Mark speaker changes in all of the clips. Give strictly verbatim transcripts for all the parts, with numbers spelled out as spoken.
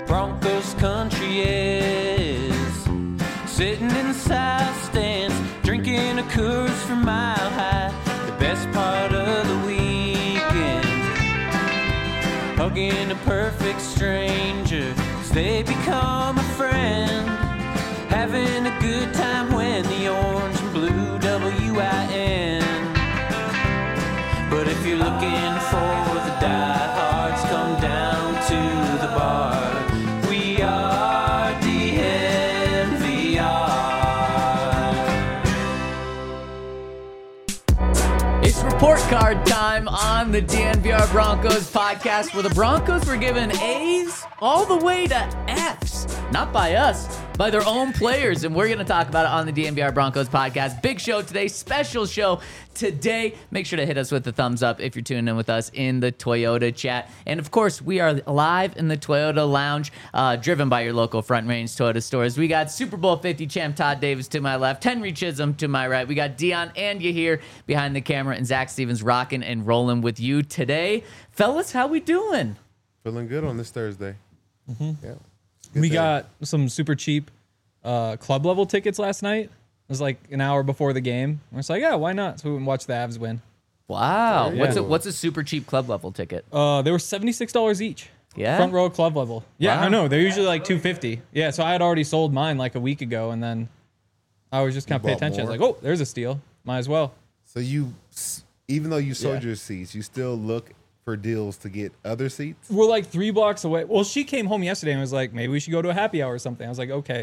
Speaker 1: Broncos country is. Sitting in the south stands, drinking a Coors from Mile High. The best part of the weekend, hugging a perfect stranger, 'cause they become a friend. Having a good time when the orange and blue W I N. But if you're looking for the diehards, come down to the bar. We are D N V R.
Speaker 2: It's report card time on the D N V R Broncos podcast, where the Broncos were given A's all the way to F's. Not by us, by their own players, and we're going to talk about it on the D N V R Broncos podcast. Big show today, special show today. Make sure to hit us with the thumbs up if you're tuning in with us in the Toyota chat. And of course, we are live in the Toyota Lounge, uh, driven by your local Front Range Toyota stores. We got Super Bowl fifty champ Todd Davis to my left, Henry Chisholm to my right. We got Dion and Yahir behind the camera, and Zach Stevens rocking and rolling with you today. Fellas, how we doing?
Speaker 3: Feeling good on this Thursday.
Speaker 4: Mm-hmm.
Speaker 3: Yeah.
Speaker 4: We
Speaker 3: day.
Speaker 4: got some super cheap uh, club level tickets last night. It was like an hour before the game. We're just like, yeah, why not? So we went and watched the Avs win.
Speaker 2: Wow.
Speaker 3: Very
Speaker 2: What's a,
Speaker 3: cool.
Speaker 2: what's a super cheap club level ticket?
Speaker 4: Uh, they were seventy-six dollars each.
Speaker 2: Yeah?
Speaker 4: Front row club level. Yeah,
Speaker 2: Wow.
Speaker 4: I know. They're usually like two hundred fifty dollars. Yeah, so I had already sold mine like a week ago, and then I was just kind of pay
Speaker 3: bought
Speaker 4: attention. I was
Speaker 3: more?
Speaker 4: like, oh, there's a steal. Might as well.
Speaker 3: So you, even though you sold
Speaker 4: Yeah.
Speaker 3: your seats, you still look for deals to get other seats?
Speaker 4: We're like three blocks away. Well, she came home yesterday and was like, maybe we should go to a happy hour or something. I was like, okay.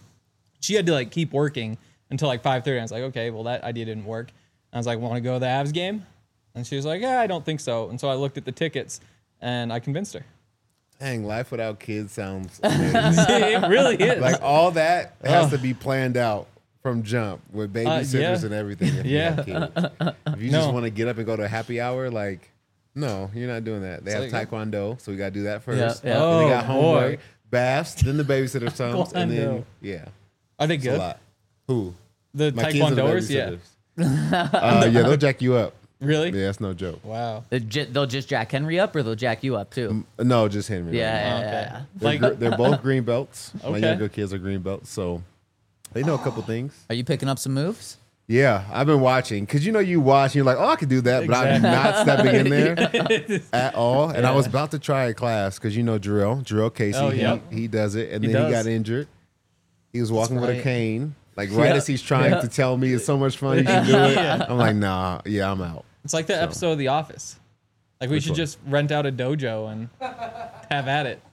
Speaker 4: She had to like keep working until like five thirty. I was like, okay, well, that idea didn't work. I was like, want to go to the Avs game? And she was like, yeah, I don't think so. And so I looked at the tickets and I convinced her.
Speaker 3: Dang, life without kids sounds amazing.
Speaker 4: It really is.
Speaker 3: Like all that has
Speaker 4: Ugh.
Speaker 3: to be planned out from jump with babysitters
Speaker 4: yeah.
Speaker 3: and everything. If
Speaker 4: Yeah.
Speaker 3: you have kids. If you
Speaker 4: No.
Speaker 3: just want to get up and go to a happy hour, like, no, you're not doing that. They
Speaker 4: So
Speaker 3: have
Speaker 4: you-
Speaker 3: Taekwondo, so we got to do that first.
Speaker 2: Yeah, yeah.
Speaker 3: Then they got
Speaker 4: Oh,
Speaker 3: homework,
Speaker 4: boy.
Speaker 3: baths, then the babysitter comes, and then,
Speaker 4: Taekwondo.
Speaker 3: yeah,
Speaker 4: Are they
Speaker 3: it's a
Speaker 4: good?
Speaker 3: lot. Who?
Speaker 4: The
Speaker 3: My kids are the
Speaker 4: Taekwondoers? Yeah.
Speaker 3: babysitters. uh, yeah, they'll jack you up.
Speaker 4: Really?
Speaker 3: Yeah, that's no joke.
Speaker 4: Wow.
Speaker 2: They'll ju- they'll just jack Henry up, or they'll jack you up too?
Speaker 3: No, just Henry.
Speaker 2: Yeah,
Speaker 3: right now.
Speaker 2: yeah,
Speaker 4: Okay.
Speaker 2: yeah, yeah.
Speaker 3: They're,
Speaker 4: Like-
Speaker 3: gr- they're both green belts. My
Speaker 4: Okay.
Speaker 3: younger kids are green belts, so they know a couple things.
Speaker 2: Are you picking up some moves?
Speaker 3: Yeah, I've been watching because you know you watch and you're like, oh, I could do that, but I'm not stepping in there at all. And I was about to try a class because you know Jarrell, Jarrell Casey,
Speaker 4: Oh,
Speaker 3: he,
Speaker 4: yeah.
Speaker 3: he does it, and
Speaker 4: He
Speaker 3: then he
Speaker 4: does.
Speaker 3: got injured. He was walking with a
Speaker 4: right.
Speaker 3: cane, like right
Speaker 4: Yeah.
Speaker 3: as he's trying
Speaker 2: Yeah.
Speaker 3: to tell me it's so much fun, you should do it.
Speaker 4: Yeah.
Speaker 3: I'm like, nah, yeah, I'm out.
Speaker 4: It's like the
Speaker 3: So.
Speaker 4: episode of The Office. Like we
Speaker 3: Which
Speaker 4: should
Speaker 3: one?
Speaker 4: just rent out a dojo and have at it.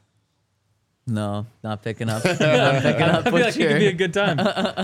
Speaker 2: No, not picking up. Not picking up
Speaker 4: I feel
Speaker 2: what
Speaker 4: like it could be a
Speaker 2: you're.
Speaker 4: good time.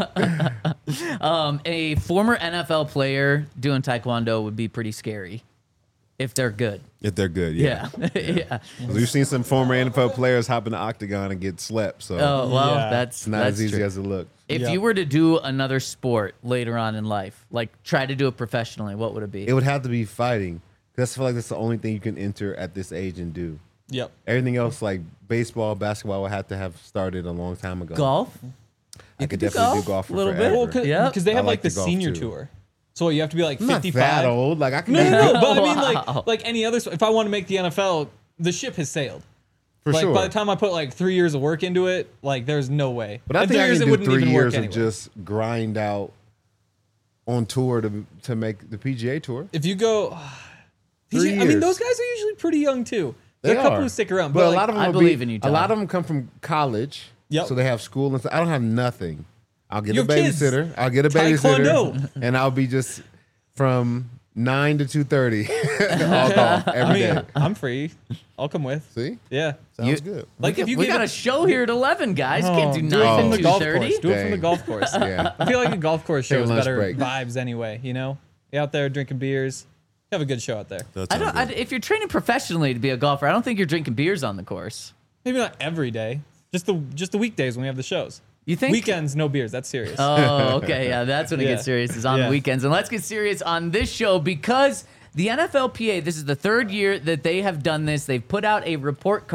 Speaker 2: Um, a former N F L player doing Taekwondo would be pretty scary if they're good.
Speaker 3: If they're good, yeah.
Speaker 2: Yeah, yeah.
Speaker 3: We've seen some former N F L players hop in the octagon and get slept, so
Speaker 2: Oh well,
Speaker 4: Yeah.
Speaker 2: that's
Speaker 3: it's not
Speaker 2: that's
Speaker 3: as easy
Speaker 2: true.
Speaker 3: as it looks.
Speaker 2: If
Speaker 4: Yep.
Speaker 2: you were to do another sport later on in life, like try to do it professionally, what would it be?
Speaker 3: It would have to be fighting. Because I feel like that's the only thing you can enter at this age and do.
Speaker 4: Yep.
Speaker 3: Everything else, like baseball, basketball, would have to have started a long time ago.
Speaker 2: Golf?
Speaker 3: I
Speaker 2: You
Speaker 3: could
Speaker 2: do
Speaker 3: definitely
Speaker 2: golf
Speaker 3: do golf for
Speaker 2: a little bit.
Speaker 3: forever.
Speaker 4: Well, because
Speaker 2: Yep.
Speaker 4: they
Speaker 3: I
Speaker 4: have
Speaker 3: like
Speaker 4: like the
Speaker 3: to golf,
Speaker 4: senior
Speaker 3: too.
Speaker 4: tour. So you have to be like
Speaker 3: I'm not
Speaker 4: fifty-five.
Speaker 3: that old. Like I can
Speaker 4: No,
Speaker 3: do
Speaker 4: no,
Speaker 3: it
Speaker 4: no. But I mean,
Speaker 2: Wow.
Speaker 4: like, like any other. If I want to make the N F L, the ship has sailed.
Speaker 3: for
Speaker 4: like
Speaker 3: sure.
Speaker 4: by the time I put like three years of work into it, like there's no way.
Speaker 3: but I
Speaker 4: In
Speaker 3: think
Speaker 4: three
Speaker 3: I
Speaker 4: years,
Speaker 3: can
Speaker 4: it
Speaker 3: do
Speaker 4: wouldn't
Speaker 3: three
Speaker 4: even
Speaker 3: years
Speaker 4: work
Speaker 3: of
Speaker 4: anyway.
Speaker 3: just grind out on tour to to make the P G A tour.
Speaker 4: If you go, P G
Speaker 3: Three
Speaker 4: I mean,
Speaker 3: years.
Speaker 4: those guys are usually pretty young too.
Speaker 3: They
Speaker 4: There are a couple
Speaker 3: are.
Speaker 4: who stick around,
Speaker 3: but,
Speaker 4: but,
Speaker 3: a
Speaker 4: like,
Speaker 3: lot of them
Speaker 2: I
Speaker 3: will
Speaker 2: believe
Speaker 3: be,
Speaker 2: in you,
Speaker 3: A
Speaker 2: Tom.
Speaker 3: lot of them come from college,
Speaker 4: Yep.
Speaker 3: so they have school and stuff. I don't have nothing. I'll get
Speaker 4: You
Speaker 3: a
Speaker 4: have kids.
Speaker 3: babysitter. I'll get a babysitter,
Speaker 4: Taekwondo.
Speaker 3: and I'll be just from nine to two thirty all golf
Speaker 4: I
Speaker 3: every day.
Speaker 4: mean, I'm free. I'll come with.
Speaker 3: See,
Speaker 4: Yeah.
Speaker 3: sounds
Speaker 2: You-
Speaker 3: good.
Speaker 4: Like if you
Speaker 2: we
Speaker 4: get
Speaker 2: got a show here at eleven, guys. Can't do
Speaker 4: do it
Speaker 2: nine
Speaker 4: from
Speaker 2: to
Speaker 4: the
Speaker 2: two
Speaker 4: golf
Speaker 2: thirty.
Speaker 4: course. Do it from the
Speaker 3: Dang.
Speaker 4: golf course.
Speaker 3: Yeah.
Speaker 4: I feel like a golf course
Speaker 3: Take a
Speaker 4: show is
Speaker 3: lunch
Speaker 4: better
Speaker 3: break.
Speaker 4: vibes anyway. You know, you're out there drinking beers. Have a good show out there.
Speaker 2: I don't. I, if you're training professionally to be a golfer, I don't think you're drinking beers on the course.
Speaker 4: Maybe not every day. Just the just the weekdays when we have the shows.
Speaker 2: You think?
Speaker 4: Weekends, no beers. That's serious.
Speaker 2: Oh, okay. Yeah, that's when it
Speaker 4: Yeah.
Speaker 2: gets serious, is on
Speaker 4: Yeah.
Speaker 2: the weekends. And let's get serious on this show because the N F L P A, this is the third year that they have done this. They've put out a report card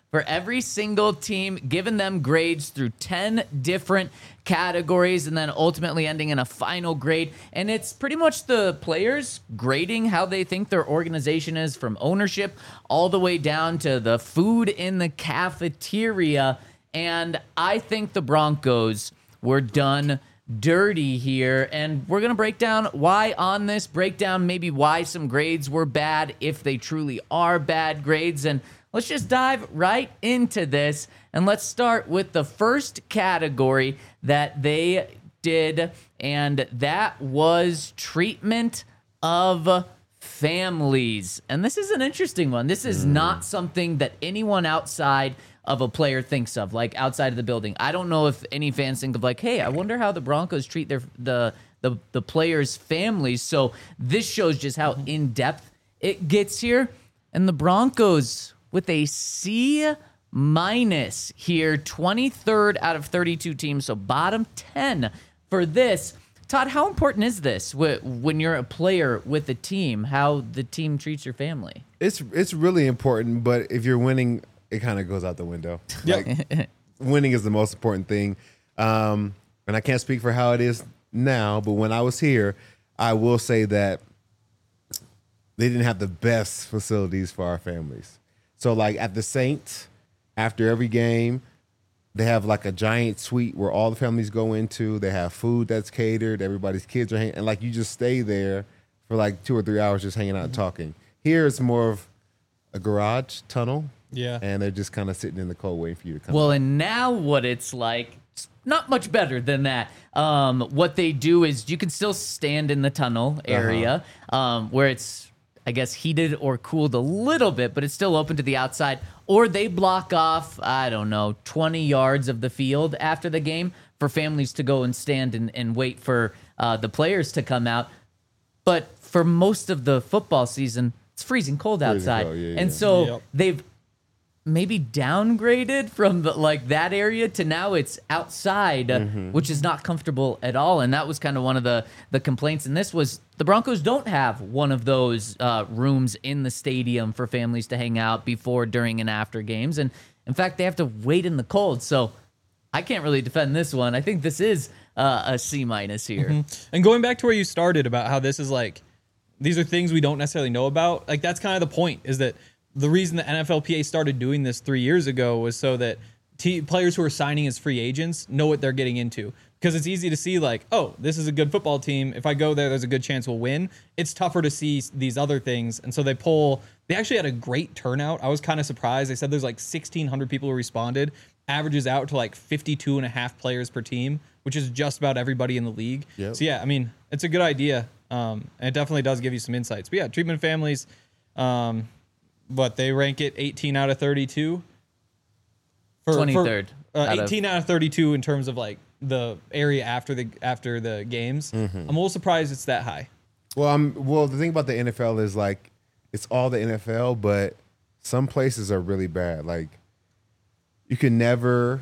Speaker 2: for every single team, giving them grades through ten different categories, and then ultimately ending in a final grade. And it's pretty much the players grading how they think their organization is, from ownership all the way down to the food in the cafeteria. And I think the Broncos were done dirty here, and we're going to break down why on this, break down maybe why some grades were bad, if they truly are bad grades, and let's just dive right into this, and let's start with the first category that they did, and that was treatment of families. And this is an interesting one. This is not something that anyone outside of a player thinks of, like outside of the building. I don't know if any fans think of like, hey, I wonder how the Broncos treat their the the, the players' families. So this shows just how in-depth it gets here. And the Broncos with a C minus here, twenty-third out of thirty-two teams, so bottom ten for this. Todd, how important is this when you're a player with a team, how the team treats your family?
Speaker 3: It's it's really important, but if you're winning, it kind of goes out the window.
Speaker 4: Yep.
Speaker 3: Like, winning is the most important thing. Um, and I can't speak for how it is now, but when I was here, I will say that they didn't have the best facilities for our families. So, like, at the Saints, after every game, they have, like, a giant suite where all the families go into. They have food that's catered. Everybody's kids are hanging. And, like, you just stay there for, like, two or three hours just hanging out and talking. Here, it's more of a garage tunnel.
Speaker 4: Yeah.
Speaker 3: And they're just kind of sitting in the cold waiting for you to come.
Speaker 2: Well,
Speaker 3: out.
Speaker 2: and now what it's like, it's not much better than that. Um, what they do is you can still stand in the tunnel area uh-huh. um, where it's, I guess, heated or cooled a little bit, but it's still open to the outside. Or they block off, I don't know, twenty yards of the field after the game for families to go and stand and, and wait for uh, the players to come out. But for most of the football season, it's freezing cold
Speaker 3: Freezing
Speaker 2: outside.
Speaker 3: cold, yeah,
Speaker 2: and
Speaker 3: yeah.
Speaker 2: so
Speaker 4: Yep.
Speaker 2: they've maybe downgraded from the, like that area to now it's outside, mm-hmm. which is not comfortable at all. And that was kind of one of the, the complaints. And this was the Broncos don't have one of those uh, rooms in the stadium for families to hang out before, during, and after games. And in fact, they have to wait in the cold. So I can't really defend this one. I think this is uh, a C minus here.
Speaker 4: Mm-hmm. And going back to where you started about how this is like, these are things we don't necessarily know about. Like, that's kind of the point, is that the reason the N F L P A started doing this three years ago was so that t- players who are signing as free agents know what they're getting into. Because it's easy to see, like, oh, this is a good football team. If I go there, there's a good chance we'll win. It's tougher to see these other things. And so they pull, they actually had a great turnout. I was kind of surprised. They said there's like sixteen hundred people who responded, averages out to like fifty-two and a half players per team, which is just about everybody in the league.
Speaker 3: Yep.
Speaker 4: So yeah, I mean, it's a good idea. Um, and it definitely does give you some insights. But yeah, treatment of families, um, but they rank it eighteen out of thirty-two. For,
Speaker 2: twenty-third.
Speaker 4: For, uh,
Speaker 2: out
Speaker 4: eighteen
Speaker 2: of...
Speaker 4: out of thirty-two in terms of like the area after the after the games.
Speaker 3: Mm-hmm.
Speaker 4: I'm a little surprised it's that high.
Speaker 3: Well, I'm well. The thing about the N F L is like it's all the N F L, but some places are really bad. Like you can never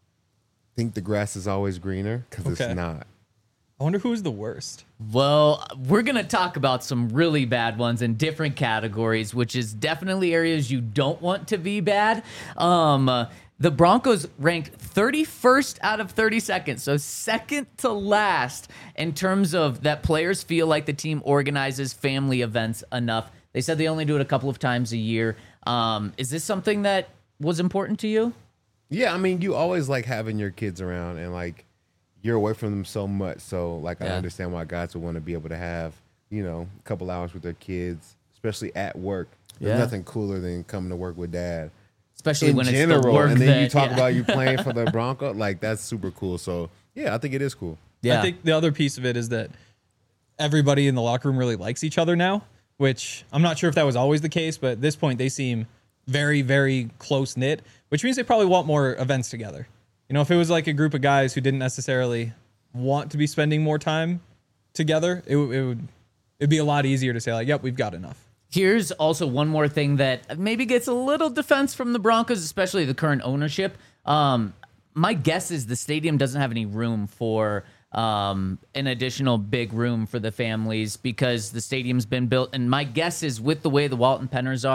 Speaker 3: think the grass is always greener because
Speaker 4: Okay.
Speaker 3: it's not.
Speaker 4: I wonder who's the worst.
Speaker 2: Well, we're going to talk about some really bad ones in different categories, which is definitely areas you don't want to be bad. Um, uh, the Broncos ranked thirty-first out of thirty-second, so second to last in terms of that players feel like the team organizes family events enough. They said they only do it a couple of times a year. Um, is this something that was important to you?
Speaker 3: Yeah, I mean, you always like having your kids around, and like you're away from them so much. So like
Speaker 2: Yeah.
Speaker 3: I understand why guys would want to be able to have, you know, a couple hours with their kids, especially at work. There's
Speaker 2: Yeah.
Speaker 3: nothing cooler than coming to work with dad.
Speaker 2: Especially
Speaker 3: In
Speaker 2: when
Speaker 3: general,
Speaker 2: it's the work
Speaker 3: and then
Speaker 2: that,
Speaker 3: you talk
Speaker 2: yeah.
Speaker 3: about you playing for the Bronco, like that's super cool. So yeah, I think it is cool.
Speaker 2: Yeah.
Speaker 4: I think the other piece of it is that everybody in the locker room really likes each other now, which I'm not sure if that was always the case, but at this point they seem very, very close knit, which means they probably want more events together. You know, if it was like a group of guys who didn't necessarily want to be spending more time together, it, w- it would it'd be a lot easier to say like, yep, we've got enough.
Speaker 2: Here's also one more thing that maybe gets a little defense from the Broncos, especially the current ownership. Um, my guess is the stadium doesn't have any room for um, an additional big room for the families because the stadium's been built. And my guess is with the way the Walton Penners are,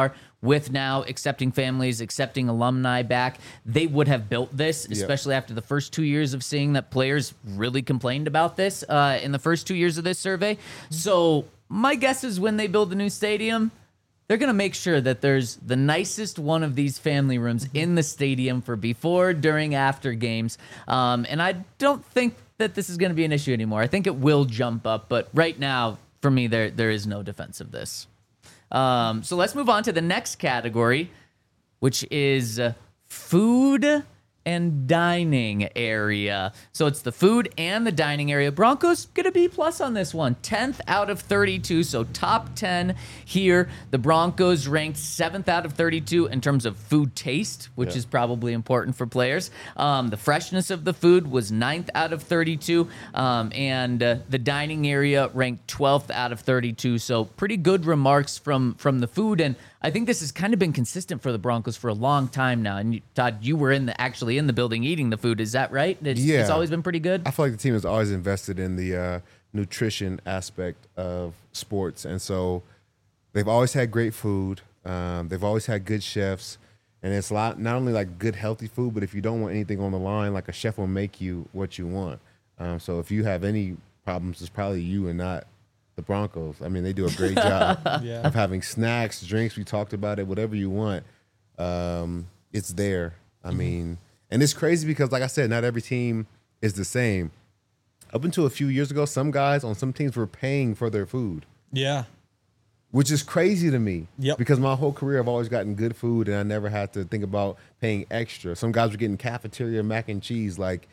Speaker 2: with now accepting families, accepting alumni back, they would have built this, especially after the first two years of seeing that players really complained about this uh, in the first two years of this survey. So my guess is when they build the new stadium, they're going to make sure that there's the nicest one of these family rooms in the stadium for before, during, after games. Um, and I don't think that this is going to be an issue anymore. I think it will jump up, but right now, for me, there there is no defense of this. Um, so let's move on to the next category, which is uh, food and dining area. So it's the food and the dining area. Broncos get a B plus on this one. tenth out of thirty-two, so top ten here. The Broncos ranked seventh out of thirty-two in terms of food taste, which
Speaker 3: Yeah.
Speaker 2: is probably important for players. Um, the freshness of the food was ninth out of thirty-two, um, and uh, the dining area ranked twelfth out of thirty-two. So pretty good remarks from from the food, and I think this has kind of been consistent for the Broncos for a long time now. And you, Todd, you were in the actually in the building eating the food. Is that right? It's,
Speaker 3: Yeah.
Speaker 2: it's always been pretty good.
Speaker 3: I feel like the team has always invested in the uh, nutrition aspect of sports, and so they've always had great food. Um, they've always had good chefs, and it's a lot, not only like good healthy food, but if you don't want anything on the line, like a chef will make you what you want. Um, so if you have any problems, it's probably you and not the Broncos. I mean, they do a great job
Speaker 4: Yeah.
Speaker 3: of having snacks, drinks. We talked about it. Whatever you want, um, it's there. I mean, and it's crazy because, like I said, not every team is the same. Up until a few years ago, some guys on some teams were paying for their food,
Speaker 4: Yeah.
Speaker 3: which is crazy to me.
Speaker 4: Yep.
Speaker 3: Because my whole career, I've always gotten good food, and I never had to think about paying extra. Some guys were getting cafeteria mac and cheese. Like,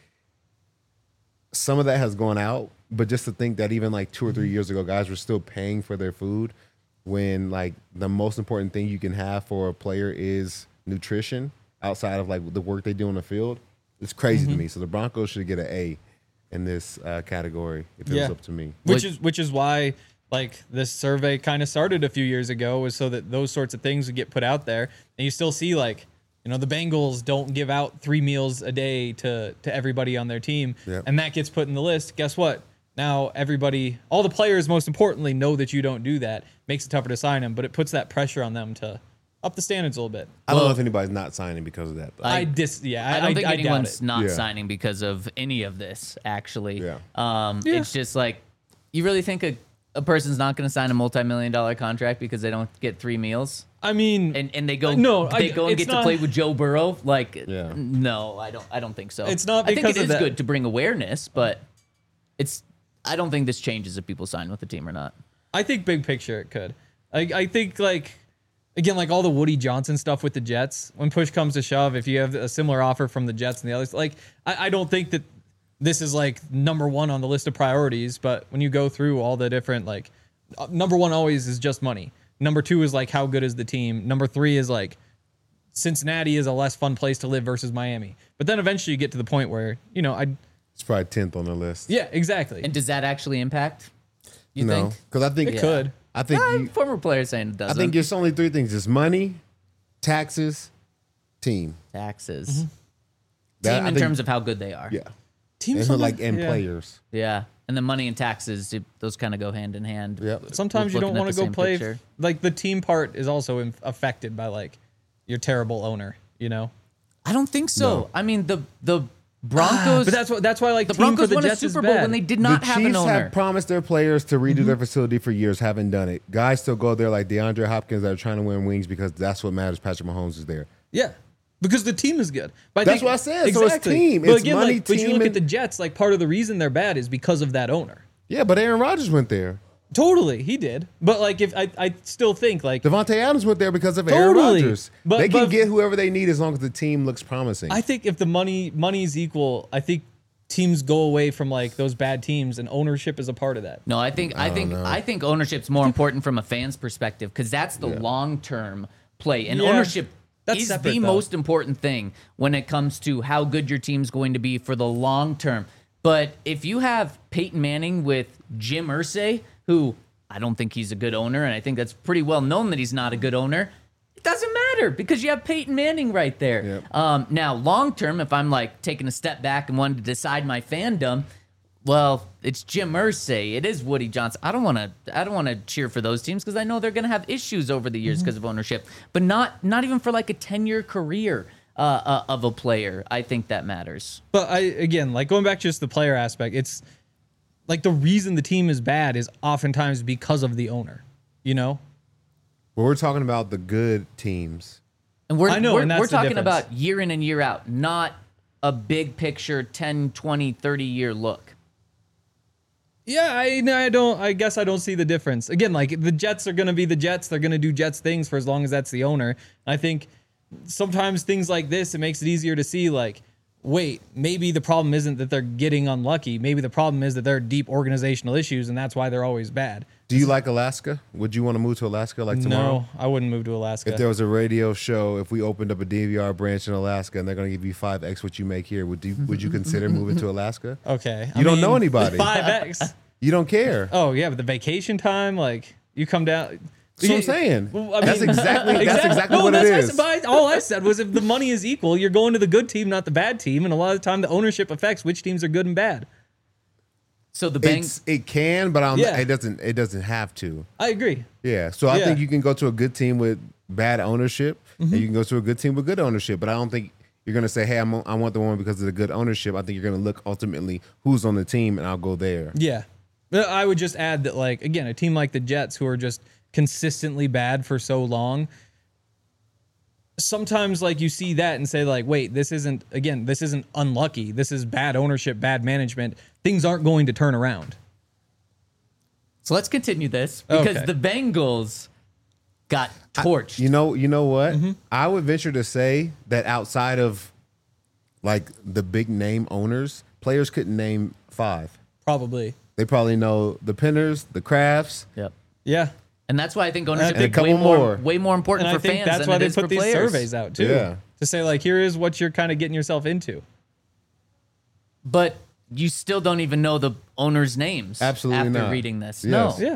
Speaker 3: some of that has gone out, but just to think that even like two or three years ago, guys were still paying for their food when like the most important thing you can have for a player is nutrition outside of like the work they do on the field. It's crazy to me. So the Broncos should get an A in this uh, category if it
Speaker 4: Yeah.
Speaker 3: was up to me.
Speaker 4: Which
Speaker 2: Like-
Speaker 4: is which is why like this survey kind of started a few years ago, was so that those sorts of things would get put out there, and you still see like, you know, the Bengals don't give out three meals a day to to everybody on their team,
Speaker 3: Yep.
Speaker 4: and that gets put in the list. Guess what? Now everybody, all the players, most importantly, know that you don't do that. Makes it tougher to sign them, but it puts that pressure on them to up the standards a little bit.
Speaker 3: I don't
Speaker 2: Well-
Speaker 3: know if anybody's not signing because of that. Though.
Speaker 4: I, dis yeah, I,
Speaker 2: I don't think
Speaker 4: I doubt
Speaker 2: anyone's
Speaker 4: it.
Speaker 2: not
Speaker 3: Yeah.
Speaker 2: signing because of any of this, actually.
Speaker 3: Yeah.
Speaker 2: Um,
Speaker 4: Yeah.
Speaker 2: It's just like, you really think a, a person's not going to sign a multi-million dollar contract because they don't get three meals?
Speaker 4: I mean,
Speaker 2: And and they go
Speaker 4: No,
Speaker 2: they
Speaker 4: I-
Speaker 2: go and
Speaker 4: it's
Speaker 2: get to
Speaker 4: not-
Speaker 2: play with Joe Burrow? Like,
Speaker 3: Yeah.
Speaker 2: no, I don't I don't think so.
Speaker 4: It's not
Speaker 2: I think
Speaker 4: because
Speaker 2: it
Speaker 4: of
Speaker 2: is
Speaker 4: that.
Speaker 2: good to bring awareness, but it's I don't think this changes if people sign with the team or not.
Speaker 4: I think big picture it could. I, I think like again, like all the Woody Johnson stuff with the Jets. When push comes to shove, if you have a similar offer from the Jets and the others, like I, I don't think that this is like number one on the list of priorities. But when you go through all the different like, uh, number one always is just money. Number two is like how good is the team. Number three is like Cincinnati is a less fun place to live versus Miami. But then eventually you get to the point where you know I
Speaker 3: It's probably tenth on the list.
Speaker 4: yeah exactly.
Speaker 2: And does that actually impact? You
Speaker 3: no,
Speaker 2: think?
Speaker 3: because I think
Speaker 4: It could.
Speaker 3: I think
Speaker 2: Uh,
Speaker 3: you,
Speaker 2: former players saying it
Speaker 3: I
Speaker 2: doesn't.
Speaker 3: think it's only three things: it's money, taxes, team.
Speaker 2: taxes.
Speaker 4: Mm-hmm.
Speaker 3: That-
Speaker 2: Team
Speaker 3: I
Speaker 2: in
Speaker 3: think-
Speaker 2: terms of how good they are.
Speaker 3: Yeah,
Speaker 4: Teams
Speaker 3: and like
Speaker 4: sometimes-
Speaker 3: and
Speaker 4: yeah.
Speaker 3: players.
Speaker 2: Yeah. And the money and taxes, it, those kind of go hand in hand.
Speaker 3: Yep.
Speaker 4: Sometimes you
Speaker 2: Looking
Speaker 4: don't
Speaker 2: at
Speaker 4: want
Speaker 2: the
Speaker 4: to go
Speaker 2: same
Speaker 4: play.
Speaker 2: picture.
Speaker 4: Like the team part is also in, affected by like your terrible owner. You know,
Speaker 2: I don't think so.
Speaker 3: No.
Speaker 2: I mean, the the Broncos.
Speaker 4: but that's what that's why like
Speaker 2: the
Speaker 4: team
Speaker 2: Broncos
Speaker 4: for the
Speaker 2: won a
Speaker 4: Jets is
Speaker 2: Super Bowl
Speaker 4: bad.
Speaker 2: when they did not
Speaker 3: the
Speaker 2: have
Speaker 3: Chiefs
Speaker 2: an owner.
Speaker 3: have promised their players to redo their facility for years, haven't done it. Guys still go there like DeAndre Hopkins that are trying to win wings because that's what matters. Patrick Mahomes is there.
Speaker 4: Yeah, because the team is good. But I
Speaker 3: That's
Speaker 4: think-
Speaker 3: what I said. So it's team.
Speaker 4: But
Speaker 3: It's
Speaker 4: again,
Speaker 3: money,
Speaker 4: like, but you
Speaker 3: team,
Speaker 4: look at
Speaker 3: and-
Speaker 4: the Jets. Like part of the reason they're bad is because of that owner.
Speaker 3: Yeah, but Aaron Rodgers went there.
Speaker 4: Totally, he did. But like, if I, I still think like
Speaker 3: Devontae Adams went there because of Aaron
Speaker 4: Totally.
Speaker 3: Rodgers.
Speaker 4: But-
Speaker 3: they can
Speaker 4: but-
Speaker 3: get whoever they need as long as the team looks promising.
Speaker 4: I think if the money money's equal, I think teams go away from like those bad teams, and ownership is a part of that.
Speaker 2: No, I think I, think
Speaker 3: know.
Speaker 2: I think ownership's more important from a fan's perspective because that's the
Speaker 3: Yeah.
Speaker 2: long term play, and
Speaker 4: Yeah.
Speaker 2: ownership
Speaker 4: That's
Speaker 2: is
Speaker 4: separate,
Speaker 2: the
Speaker 4: though.
Speaker 2: most important thing when it comes to how good your team's going to be for the long term. But if you have Peyton Manning with Jim Irsay, who I don't think he's a good owner, and I think that's pretty well known that he's not a good owner. It doesn't matter because you have Peyton Manning right there.
Speaker 3: Yep.
Speaker 2: Um, now, long term, if I'm like taking a step back and wanting to decide my fandom, Well, it's Jim Irsay. It is Woody Johnson. I don't want to. I don't want to cheer for those teams because I know they're going to have issues over the years because mm-hmm. of ownership. But not not even for like a ten-year career uh, uh, of a player. I think that matters.
Speaker 4: But I again, like going back to just the player aspect, it's like the reason the team is bad is oftentimes because of the owner. You know.
Speaker 3: Well, we're talking about the good teams,
Speaker 2: and we're
Speaker 4: I know,
Speaker 2: we're,
Speaker 4: and that's
Speaker 2: we're
Speaker 4: the
Speaker 2: talking
Speaker 4: difference.
Speaker 2: about year in and year out, not a big picture ten, twenty, thirty year look.
Speaker 4: Yeah, I I don't. I guess I don't see the difference. Again, like the Jets are going to be the Jets. They're going to do Jets things for as long as that's the owner. I think sometimes things like this, it makes it easier to see. Like, wait, maybe the problem isn't that they're getting unlucky. Maybe the problem is that there are deep organizational issues, and that's why they're always bad.
Speaker 3: Do you like Alaska? Would you want to move to Alaska like tomorrow?
Speaker 4: No, I wouldn't move to Alaska.
Speaker 3: If there was a radio show, if we opened up a D V R branch in Alaska and they're going to give you five X what you make here, would you would you consider moving to Alaska?
Speaker 4: Okay,
Speaker 3: you I don't mean, know anybody.
Speaker 4: five X.
Speaker 3: You don't care.
Speaker 4: Oh yeah, but the vacation time, like you come down.
Speaker 3: That's what I'm saying.
Speaker 4: Well, I mean,
Speaker 3: that's exactly that's exactly
Speaker 4: no,
Speaker 3: what
Speaker 4: that's
Speaker 3: it is.
Speaker 4: I said, all I said was if the money is equal, you're going to the good team, not the bad team, and a lot of the time the ownership affects which teams are good and bad.
Speaker 2: So the bank,
Speaker 3: It's, it can, but I'm,
Speaker 4: Yeah.
Speaker 3: it doesn't. It doesn't have to.
Speaker 4: I agree.
Speaker 3: Yeah. So I
Speaker 4: Yeah.
Speaker 3: think you can go to a good team with bad ownership, and you can go to a good team with good ownership. But I don't think you're going to say, "Hey, I'm, I want the one because of the good ownership." I think you're going to look ultimately who's on the team, and I'll go there.
Speaker 4: Yeah. But I would just add that, like, again, a team like the Jets who are just consistently bad for so long, sometimes, like, you see that and say, like, wait, this isn't, again, this isn't unlucky. This is bad ownership, bad management. Things aren't going to turn around.
Speaker 2: So let's continue this because
Speaker 4: Okay.
Speaker 2: the Bengals got torched.
Speaker 3: You know, you know what?
Speaker 4: Mm-hmm.
Speaker 3: I would venture to say that outside of like the big name owners, players couldn't name five.
Speaker 4: Probably.
Speaker 3: They probably know the Pinners, the Crafts.
Speaker 2: Yep.
Speaker 4: Yeah.
Speaker 2: And that's why I think ownership
Speaker 3: And a
Speaker 2: is way
Speaker 3: couple
Speaker 2: more,
Speaker 3: more.
Speaker 2: way more important
Speaker 4: And I
Speaker 2: for
Speaker 4: think
Speaker 2: fans
Speaker 4: that's
Speaker 2: than
Speaker 4: why
Speaker 2: it
Speaker 4: they
Speaker 2: is
Speaker 4: put
Speaker 2: for
Speaker 4: these
Speaker 2: players.
Speaker 4: surveys out, too.
Speaker 3: Yeah.
Speaker 4: To say, like, here is what you're kind of getting yourself into.
Speaker 2: But you still don't even know the owners' names
Speaker 3: Absolutely
Speaker 2: after
Speaker 3: not.
Speaker 2: reading this.
Speaker 3: Yes.
Speaker 2: No.
Speaker 4: Yeah.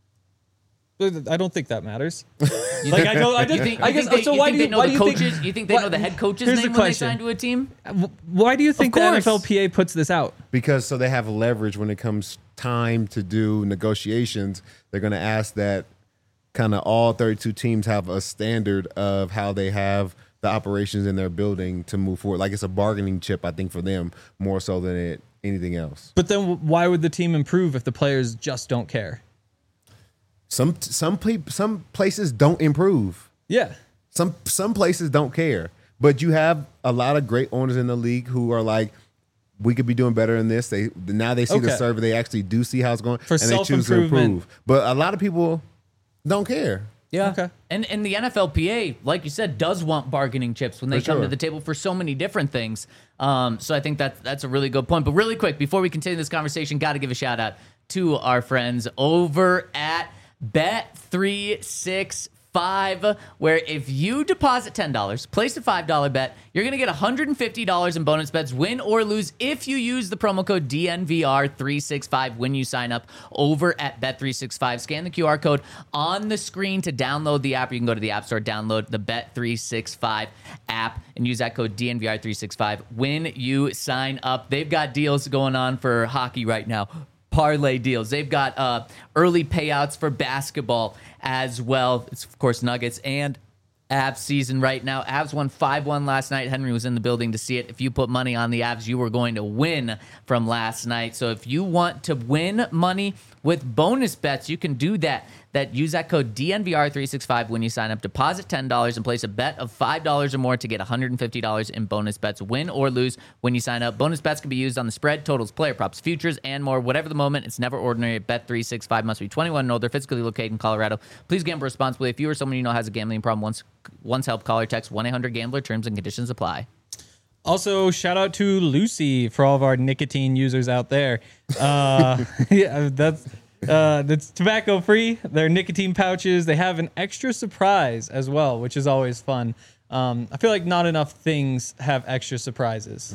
Speaker 4: I don't think that matters.
Speaker 2: You
Speaker 4: Like,
Speaker 2: think-
Speaker 4: I don't, I
Speaker 2: you
Speaker 4: just,
Speaker 2: think,
Speaker 4: I
Speaker 2: you
Speaker 4: guess,
Speaker 2: think they,
Speaker 4: so
Speaker 2: you
Speaker 4: why
Speaker 2: think
Speaker 4: do
Speaker 2: they
Speaker 4: you,
Speaker 2: know
Speaker 4: why
Speaker 2: the
Speaker 4: do you
Speaker 2: coaches?
Speaker 4: think,
Speaker 2: you think they
Speaker 4: what-
Speaker 2: know the head coach's
Speaker 4: here's
Speaker 2: name
Speaker 4: the
Speaker 2: when they
Speaker 4: question.
Speaker 2: sign to a team?
Speaker 4: Why do you think the
Speaker 2: course.
Speaker 4: N F L P A puts this out?
Speaker 3: Because so they have leverage when it comes time to do negotiations. They're going to ask that kind of all thirty-two teams have a standard of how they have the operations in their building to move forward. Like it's a bargaining chip, I think, for them more so than it anything else.
Speaker 4: But then why would the team improve if the players just don't care?
Speaker 3: Some some pe- some places don't improve.
Speaker 4: Yeah.
Speaker 3: Some some places don't care. But you have a lot of great owners in the league who are like, we could be doing better in this. They now they see the
Speaker 4: Okay.
Speaker 3: survey, they actually do see how it's going,
Speaker 4: For
Speaker 3: and they choose to
Speaker 4: self-improvement.
Speaker 3: improve. But a lot of people don't care.
Speaker 2: Yeah.
Speaker 4: Okay.
Speaker 2: And and the N F L P A, like you said, does want bargaining chips when they
Speaker 3: For
Speaker 2: come
Speaker 3: sure.
Speaker 2: to the table for so many different things. Um, so I think that that's a really good point. But really quick, before we continue this conversation, got to give a shout out to our friends over at Bet three sixty-five, where if you deposit ten dollars, place a five dollar bet, you're going to get one hundred fifty dollars in bonus bets, win or lose, if you use the promo code D N V R three sixty-five when you sign up over at Bet three sixty-five. Scan the Q R code on the screen to download the app. You can go to the App Store, download the Bet three sixty-five app, and use that code D N V R three sixty-five when you sign up. They've got deals going on for hockey right now. Parlay deals. They've got uh, early payouts for basketball as well. It's, of course, Nuggets and Avs season right now. Avs won five one last night. Henry was in the building to see it. If you put money on the Avs, you were going to win from last night. So if you want to win money with bonus bets, you can do that. That use that code D N V R three sixty-five when you sign up. Deposit ten dollars and place a bet of five dollars or more to get one hundred fifty dollars in bonus bets, win or lose when you sign up. Bonus bets can be used on the spread, totals, player props, futures, and more. Whatever the moment, it's never ordinary at Bet three sixty-five. Must be twenty-one and older, physically located in Colorado. Please gamble responsibly. If you or someone you know has a gambling problem, once, once help, call or text one eight hundred gambler. Terms and conditions apply.
Speaker 4: Also, shout out to Lucy for all of our nicotine users out there. Uh, yeah, that's uh, that's tobacco free. They're nicotine pouches. They have an extra surprise as well, which is always fun. Um, I feel like not enough things have extra surprises.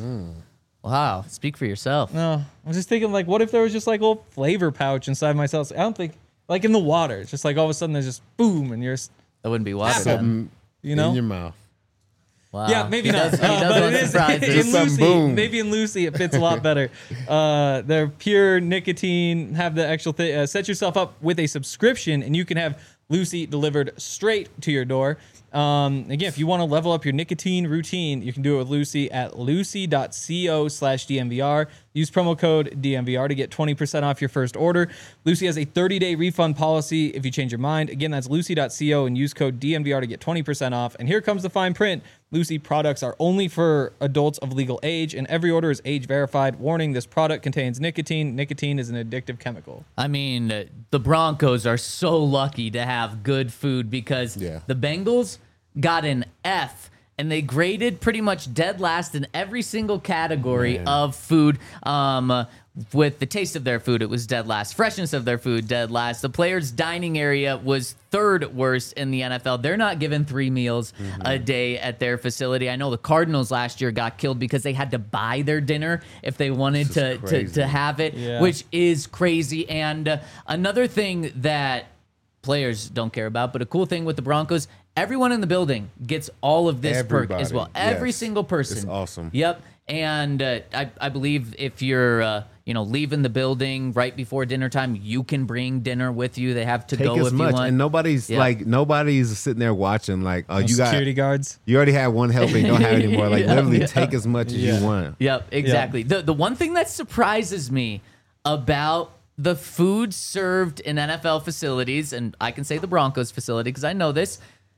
Speaker 2: Wow. Speak for yourself.
Speaker 4: No, I was just thinking, like, what if there was just like a little flavor pouch inside myself? I don't think, like in the water, it's just like all of a sudden there's just boom, and you're, s-
Speaker 2: That wouldn't be water.
Speaker 4: Apple.
Speaker 2: then.
Speaker 4: you know,
Speaker 3: In your mouth.
Speaker 2: Wow.
Speaker 4: Yeah, maybe
Speaker 2: He
Speaker 4: not.
Speaker 2: does- he
Speaker 4: Uh,
Speaker 2: does
Speaker 4: but
Speaker 2: want
Speaker 4: it is
Speaker 2: surprises.
Speaker 4: in
Speaker 3: Some
Speaker 4: Lucy.
Speaker 3: boom.
Speaker 4: Maybe in Lucy it fits a lot better. Uh, they're pure nicotine. Have the actual thing. Uh, set yourself up with a subscription, and you can have Lucy delivered straight to your door. Um, again, if you want to level up your nicotine routine, you can do it with Lucy at lucy.co slash DMVR. Use promo code D M V R to get twenty percent off your first order. Lucy has a thirty-day refund policy if you change your mind. Again, that's lucy.co and use code D M V R to get twenty percent off. And here comes the fine print. Lucy products are only for adults of legal age, and every order is age verified. Warning, this product contains nicotine. Nicotine is an addictive chemical.
Speaker 2: I mean, uh, the Broncos are so lucky to have good food because
Speaker 3: Yeah.
Speaker 2: the Bengals got an F, and they graded pretty much dead last in every single category
Speaker 3: Man.
Speaker 2: of food. Um, uh, with the taste of their food, it was dead last. Freshness of their food, dead last. The players' dining area was third worst in the N F L. They're not given three meals a day at their facility. I know the Cardinals last year got killed because they had to buy their dinner if they wanted
Speaker 3: This
Speaker 2: to,
Speaker 3: is
Speaker 2: to,
Speaker 3: crazy.
Speaker 2: to have it,
Speaker 4: Yeah.
Speaker 2: which is crazy. And uh, another thing that players don't care about, but a cool thing with the Broncos, everyone in the building gets all of this perk as
Speaker 3: Everybody,
Speaker 2: well. Every
Speaker 3: yes.
Speaker 2: single person.
Speaker 3: It's awesome.
Speaker 2: Yep. And uh, I, I believe if you're, uh, you know, leaving the building right before dinner time, you can bring dinner with you. They have to
Speaker 3: Take
Speaker 2: go
Speaker 3: as
Speaker 2: if
Speaker 3: much,
Speaker 2: you want.
Speaker 3: and nobody's
Speaker 2: Yeah.
Speaker 3: like nobody's sitting there watching. Like, oh, you got
Speaker 4: Security guards.
Speaker 3: you already had one helping, don't have any more. Like,
Speaker 2: Yeah,
Speaker 3: literally
Speaker 2: yeah.
Speaker 3: take as much as
Speaker 4: Yeah.
Speaker 3: you want.
Speaker 2: Yep, exactly. The the one thing that surprises me about the food served in N F L facilities, and I can say the Broncos facility because I know this,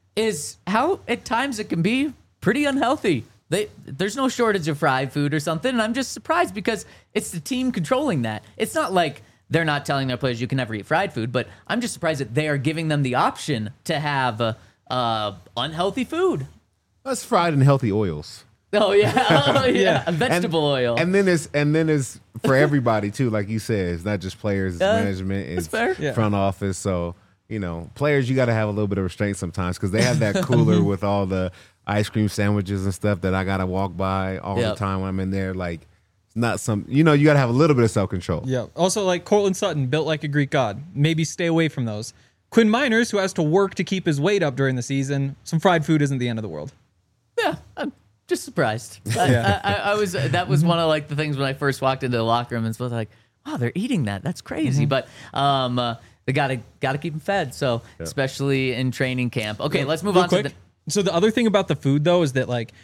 Speaker 2: is how at times it can be pretty unhealthy. They, there's no shortage of fried food or something, and I'm just surprised because it's the team controlling that. It's not like they're not telling their players you can never eat fried food, but I'm just surprised that they are giving them the option to have uh, uh, unhealthy food.
Speaker 3: That's fried in healthy oils.
Speaker 2: Oh yeah, oh, yeah.
Speaker 4: Yeah.
Speaker 2: vegetable
Speaker 3: and,
Speaker 2: oil.
Speaker 3: And then it's and then it's for everybody too. Like you said, it's not just players, it's
Speaker 2: Yeah,
Speaker 3: management,
Speaker 2: that's
Speaker 3: it's
Speaker 2: fair.
Speaker 4: Yeah.
Speaker 3: front office. So you know, players, you got to have a little bit of restraint sometimes because they have that cooler with all the ice cream sandwiches and stuff that I gotta walk by all
Speaker 2: Yep.
Speaker 3: the time when I'm in there. Like, it's not some, you know, you gotta have a little bit of self control.
Speaker 4: Yeah. Also, like Cortland Sutton, built like a Greek god. Maybe stay away from those. Quinn Miners, who has to work to keep his weight up during the season, some fried food isn't the end of the world.
Speaker 2: Yeah, I'm just surprised. I,
Speaker 4: Yeah.
Speaker 2: I, I, I was. That was one of like the things when I first walked into the locker room and was like, "Wow, they're eating that. That's crazy." But um, uh, they gotta gotta keep them fed. So especially in training camp. Okay, let's move
Speaker 4: Real
Speaker 2: on
Speaker 4: quick.
Speaker 2: to the.
Speaker 4: So the other thing about the food though is that like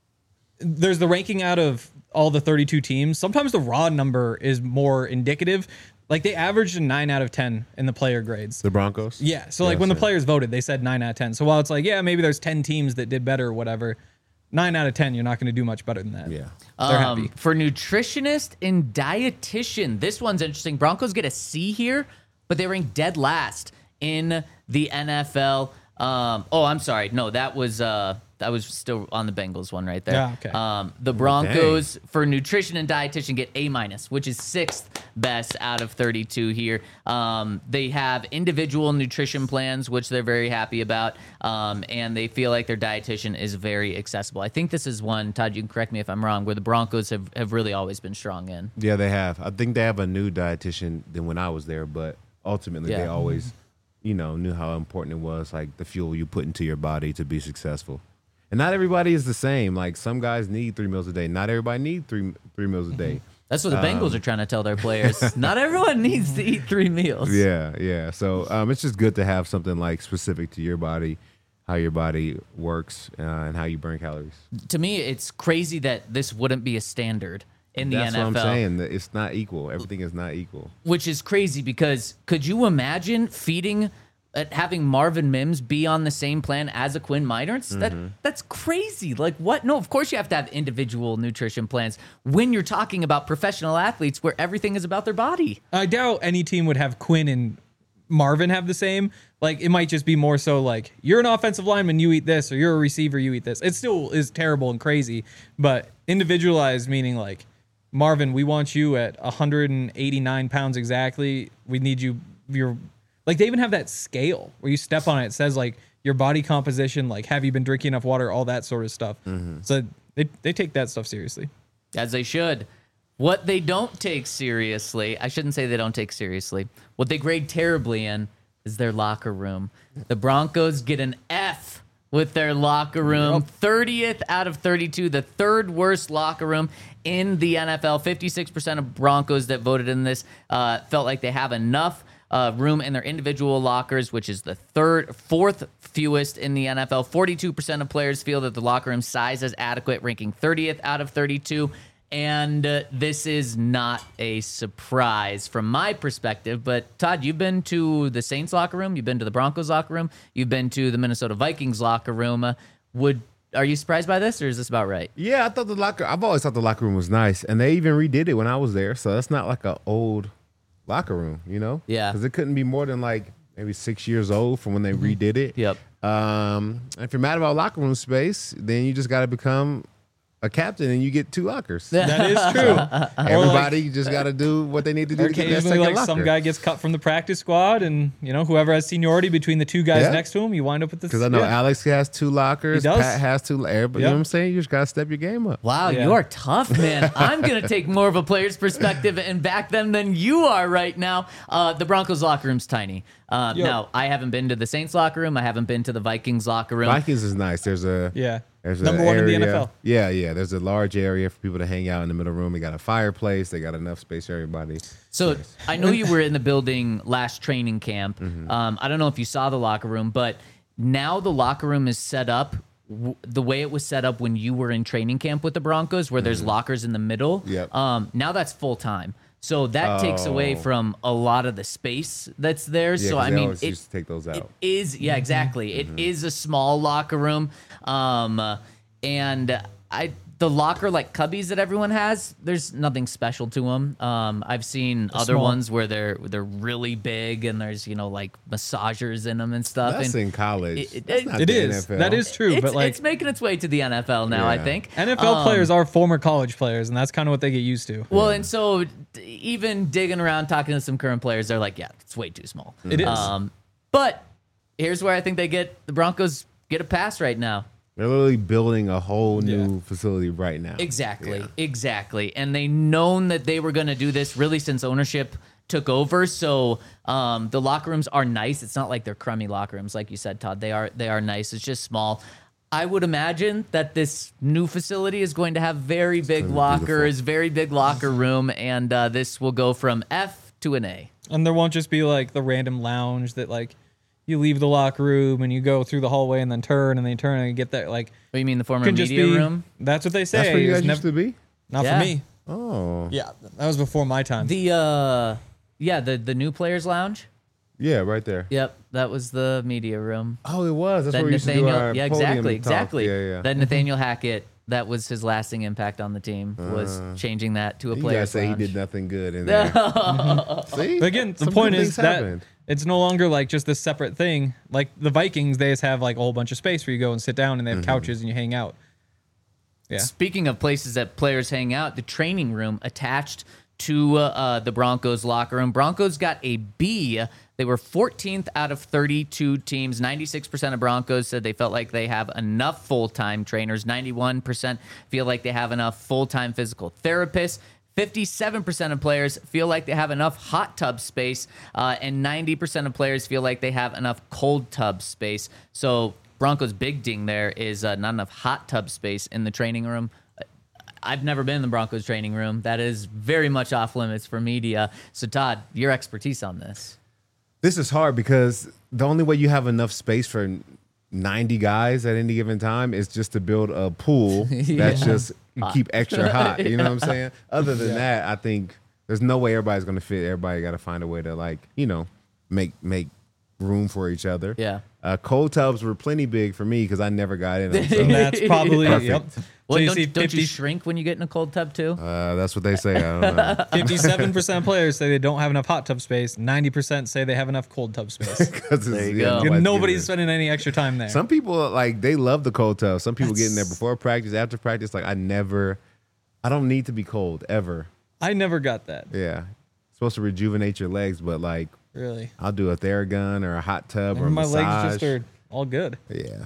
Speaker 4: there's the ranking out of all the thirty-two teams. Sometimes the raw number is more indicative. Like they averaged a nine out of ten in the player grades.
Speaker 3: The Broncos?
Speaker 4: Yeah. So like when the
Speaker 3: same.
Speaker 4: players voted, they said nine out of ten. So while it's like, yeah, maybe there's ten teams that did better or whatever, nine out of ten, you're not going to do much better than that.
Speaker 3: Yeah.
Speaker 4: They're
Speaker 2: Um,
Speaker 4: happy.
Speaker 2: for nutritionist and dietitian, this one's interesting. Broncos get a C here, but they rank dead last in the N F L. Um, oh, I'm sorry. No, that was uh, that was still on the Bengals one right there.
Speaker 4: Yeah, okay.
Speaker 2: Um, the Broncos for nutrition and dietitian get A minus, which is sixth best out of thirty-two here. Um, they have individual nutrition plans, which they're very happy about, um, and they feel like their dietitian is very accessible. I think this is one, Todd, you can correct me if I'm wrong, where the Broncos have, have really always been strong in.
Speaker 3: Yeah, they have. I think they have a new dietitian than when I was there, but ultimately they
Speaker 2: Yeah.
Speaker 3: always, you know, knew how important it was, like the fuel you put into your body to be successful. And not everybody is the same. Like some guys need three meals a day. Not everybody need three three meals a day.
Speaker 2: That's what the Bengals are trying to tell their players. Not everyone needs to eat three meals.
Speaker 3: Yeah, yeah. So um, it's just good to have something like specific to your body, how your body works, uh, and how you burn calories.
Speaker 2: To me, it's crazy that this wouldn't be a standard in the
Speaker 3: That's
Speaker 2: N F L.
Speaker 3: what I'm saying. That it's not equal. Everything is not equal.
Speaker 2: Which is crazy because could you imagine feeding, uh, having Marvin Mims be on the same plan as a Quinn Meinerz? That that's crazy. Like what? No, of course you have to have individual nutrition plans when you're talking about professional athletes where everything is about their body.
Speaker 4: I doubt any team would have Quinn and Marvin have the same. Like it might just be more so like you're an offensive lineman, you eat this, or you're a receiver, you eat this. It still is terrible and crazy, but individualized meaning like Marvin, we want you at one hundred eighty-nine pounds exactly. We need you. You're like they even have that scale where you step on it. It says like your body composition, like have you been drinking enough water, all that sort of stuff. So they they take that stuff seriously.
Speaker 2: As they should. What they don't take seriously, I shouldn't say they don't take seriously, what they grade terribly in is their locker room. The Broncos get an F with their locker room. thirtieth out of thirty-two, the third worst locker room in the N F L. fifty-six percent of Broncos that voted in this uh, felt like they have enough uh, room in their individual lockers, which is the third, fourth fewest in the N F L. forty-two percent of players feel that the locker room size is adequate, ranking thirtieth out of thirty-two. And uh, this is not a surprise from my perspective. But Todd, you've been to the Saints locker room, you've been to the Broncos locker room, you've been to the Minnesota Vikings locker room. Uh, would are you surprised by this, or is this about right?
Speaker 3: Yeah, I thought the locker. I've always thought the locker room was nice, and they even redid it when I was there. So that's not like an old locker room, you know?
Speaker 2: Yeah.
Speaker 3: Because it couldn't be more than like maybe six years old from when they redid it.
Speaker 2: Yep.
Speaker 3: Um, if you're mad about locker room space, then you just got to become a captain and you get two lockers.
Speaker 4: That is true.
Speaker 3: Everybody just got to do what they need to do to get that
Speaker 4: Occasionally,
Speaker 3: second
Speaker 4: like
Speaker 3: locker.
Speaker 4: some guy gets cut from the practice squad, and you know whoever has seniority between the two guys
Speaker 3: Yeah.
Speaker 4: next to him, you wind up with this.
Speaker 3: Because I know
Speaker 4: yeah.
Speaker 3: Alex has two lockers,
Speaker 4: He does.
Speaker 3: Pat has two. Everybody, you
Speaker 4: Yep.
Speaker 3: know what I'm saying? You just got to step your game up.
Speaker 2: Wow,
Speaker 4: Yeah.
Speaker 2: you are tough, man. I'm going to take more of a player's perspective and back them than you are right now. Uh, the Broncos locker room's tiny. Uh,
Speaker 4: Yep.
Speaker 2: Now, I haven't been to the Saints locker room. I haven't been to the Vikings locker room.
Speaker 3: Vikings is nice. There's a
Speaker 4: Yeah.
Speaker 3: There's
Speaker 4: Number
Speaker 3: a
Speaker 4: one in the
Speaker 3: area-
Speaker 4: N F L.
Speaker 3: Yeah, yeah. There's a large area for people to hang out in the middle room. They got a fireplace. They got enough space for everybody.
Speaker 2: So I know you were in the building last training camp. Um, I don't know if you saw the locker room, but now the locker room is set up w- the way it was set up when you were in training camp with the Broncos, where there's lockers in the middle.
Speaker 3: Yep.
Speaker 2: Um, now that's full time. So that takes away
Speaker 3: Oh.
Speaker 2: from a lot of the space that's there.
Speaker 3: Yeah,
Speaker 2: so
Speaker 3: 'cause
Speaker 2: I
Speaker 3: they
Speaker 2: mean,
Speaker 3: always
Speaker 2: it,
Speaker 3: used to take those
Speaker 2: it
Speaker 3: out.
Speaker 2: is yeah, exactly. It is a small locker room, um, uh, and I the locker like cubbies that everyone has. There's nothing special to them. Um, I've seen other
Speaker 4: small.
Speaker 2: ones where they're they're really big and there's you know like massagers in them and stuff.
Speaker 3: That's
Speaker 2: and
Speaker 3: in college.
Speaker 2: it- it-
Speaker 3: That's not
Speaker 4: It
Speaker 3: the
Speaker 4: is.
Speaker 3: N F L.
Speaker 4: That is true.
Speaker 2: it's,
Speaker 4: but like
Speaker 2: it's making its way to the N F L now. I
Speaker 3: Yeah.
Speaker 2: think
Speaker 4: N F L
Speaker 2: Um,
Speaker 4: players are former college players, and that's kind of what they get used to.
Speaker 2: Well, and so d- even digging around, talking to some current players, they're like, yeah, it's way too small.
Speaker 4: It is.
Speaker 2: Um, but here's where I think they get the Broncos get a pass right now.
Speaker 3: They're literally building a whole new
Speaker 4: Yeah.
Speaker 3: facility right now.
Speaker 2: Exactly,
Speaker 3: Yeah.
Speaker 2: exactly. And they known that they were going to do this really since ownership took over. So um, the locker rooms are nice. It's not like they're crummy locker rooms, like you said, Todd. They are they are nice. It's just small. I would imagine that this new facility is going to have very big
Speaker 3: gonna be
Speaker 2: lockers, very big locker room, and uh, this will go from F to an A.
Speaker 4: And there won't just be like the random lounge that like you leave the locker room and you go through the hallway and then turn and then you turn and you get there. Like
Speaker 2: What do you mean the former
Speaker 4: can just
Speaker 2: media
Speaker 4: be.
Speaker 2: room?
Speaker 4: That's what they say.
Speaker 3: That's where you
Speaker 4: It's
Speaker 3: guys used
Speaker 4: nev-
Speaker 3: to be?
Speaker 4: Not
Speaker 2: Yeah.
Speaker 4: for me.
Speaker 3: Oh.
Speaker 4: Yeah, that was before my time.
Speaker 2: The uh, yeah, the the new players lounge.
Speaker 3: Yeah, right there.
Speaker 2: Yep, that was the media room.
Speaker 3: Oh, it was. That's
Speaker 2: That
Speaker 3: where we used to do
Speaker 2: Nathaniel,
Speaker 3: our
Speaker 2: yeah,
Speaker 3: podium
Speaker 2: exactly,
Speaker 3: talk.
Speaker 2: exactly.
Speaker 3: Yeah, yeah.
Speaker 2: That Nathaniel Hackett, that was his lasting impact on the team, was changing that to a
Speaker 3: you
Speaker 2: player.
Speaker 3: guys say he did nothing good in there. See?
Speaker 4: But again, the
Speaker 3: Some
Speaker 4: point
Speaker 3: good
Speaker 4: is
Speaker 3: things
Speaker 4: that
Speaker 3: happened.
Speaker 4: it's no longer like just this separate thing. Like the Vikings, they just have like a whole bunch of space where you go and sit down, and they have
Speaker 3: Mm-hmm.
Speaker 4: couches and you hang out. Yeah,
Speaker 2: Speaking of places that players hang out, the training room attached to uh, uh, the Broncos locker room. Broncos got a B. They were fourteenth out of thirty-two teams. ninety-six percent of Broncos said they felt like they have enough full-time trainers. ninety-one percent feel like they have enough full-time physical therapists. fifty-seven percent of players feel like they have enough hot tub space, uh, and ninety percent of players feel like they have enough cold tub space. So Broncos' big ding there is uh, not enough hot tub space in the training room. I've never been in the Broncos training room. That is very much off limits for media. So Todd, your expertise on this.
Speaker 3: This is hard because the only way you have enough space for ninety guys at any given time is just to build a pool that's just keep extra hot. You know what I'm saying? Other than that, I think there's no way everybody's going to fit. Everybody got to find a way to, like, you know, make make room for each other.
Speaker 2: Yeah.
Speaker 3: Uh, cold tubs were plenty big for me because I never got in them. So,
Speaker 4: and that's probably
Speaker 3: Perfect.
Speaker 4: yep.
Speaker 2: Well,
Speaker 4: so you
Speaker 2: don't,
Speaker 4: see
Speaker 2: don't you
Speaker 4: fifty,
Speaker 2: shrink when you get in a cold tub too?
Speaker 3: uh, that's what they say. I don't know.
Speaker 4: fifty-seven percent of players say they don't have enough hot tub space. ninety percent say they have enough cold tub space.
Speaker 3: 'Cause
Speaker 2: There
Speaker 3: it's-
Speaker 2: you
Speaker 3: yeah,
Speaker 2: go.
Speaker 3: nobody's
Speaker 4: Nobody's
Speaker 3: getting
Speaker 4: spending any extra time there.
Speaker 3: it. Some people, like, they love the cold tub. Some people get in there before practice, after practice. Like, I never, I don't need to be cold ever.
Speaker 4: I never got that.
Speaker 3: Yeah. It's supposed to rejuvenate your legs, but, like,
Speaker 4: Really.
Speaker 3: I'll do a Theragun or a hot tub or a
Speaker 4: My
Speaker 3: massage.
Speaker 4: legs just are all good.
Speaker 3: Yeah.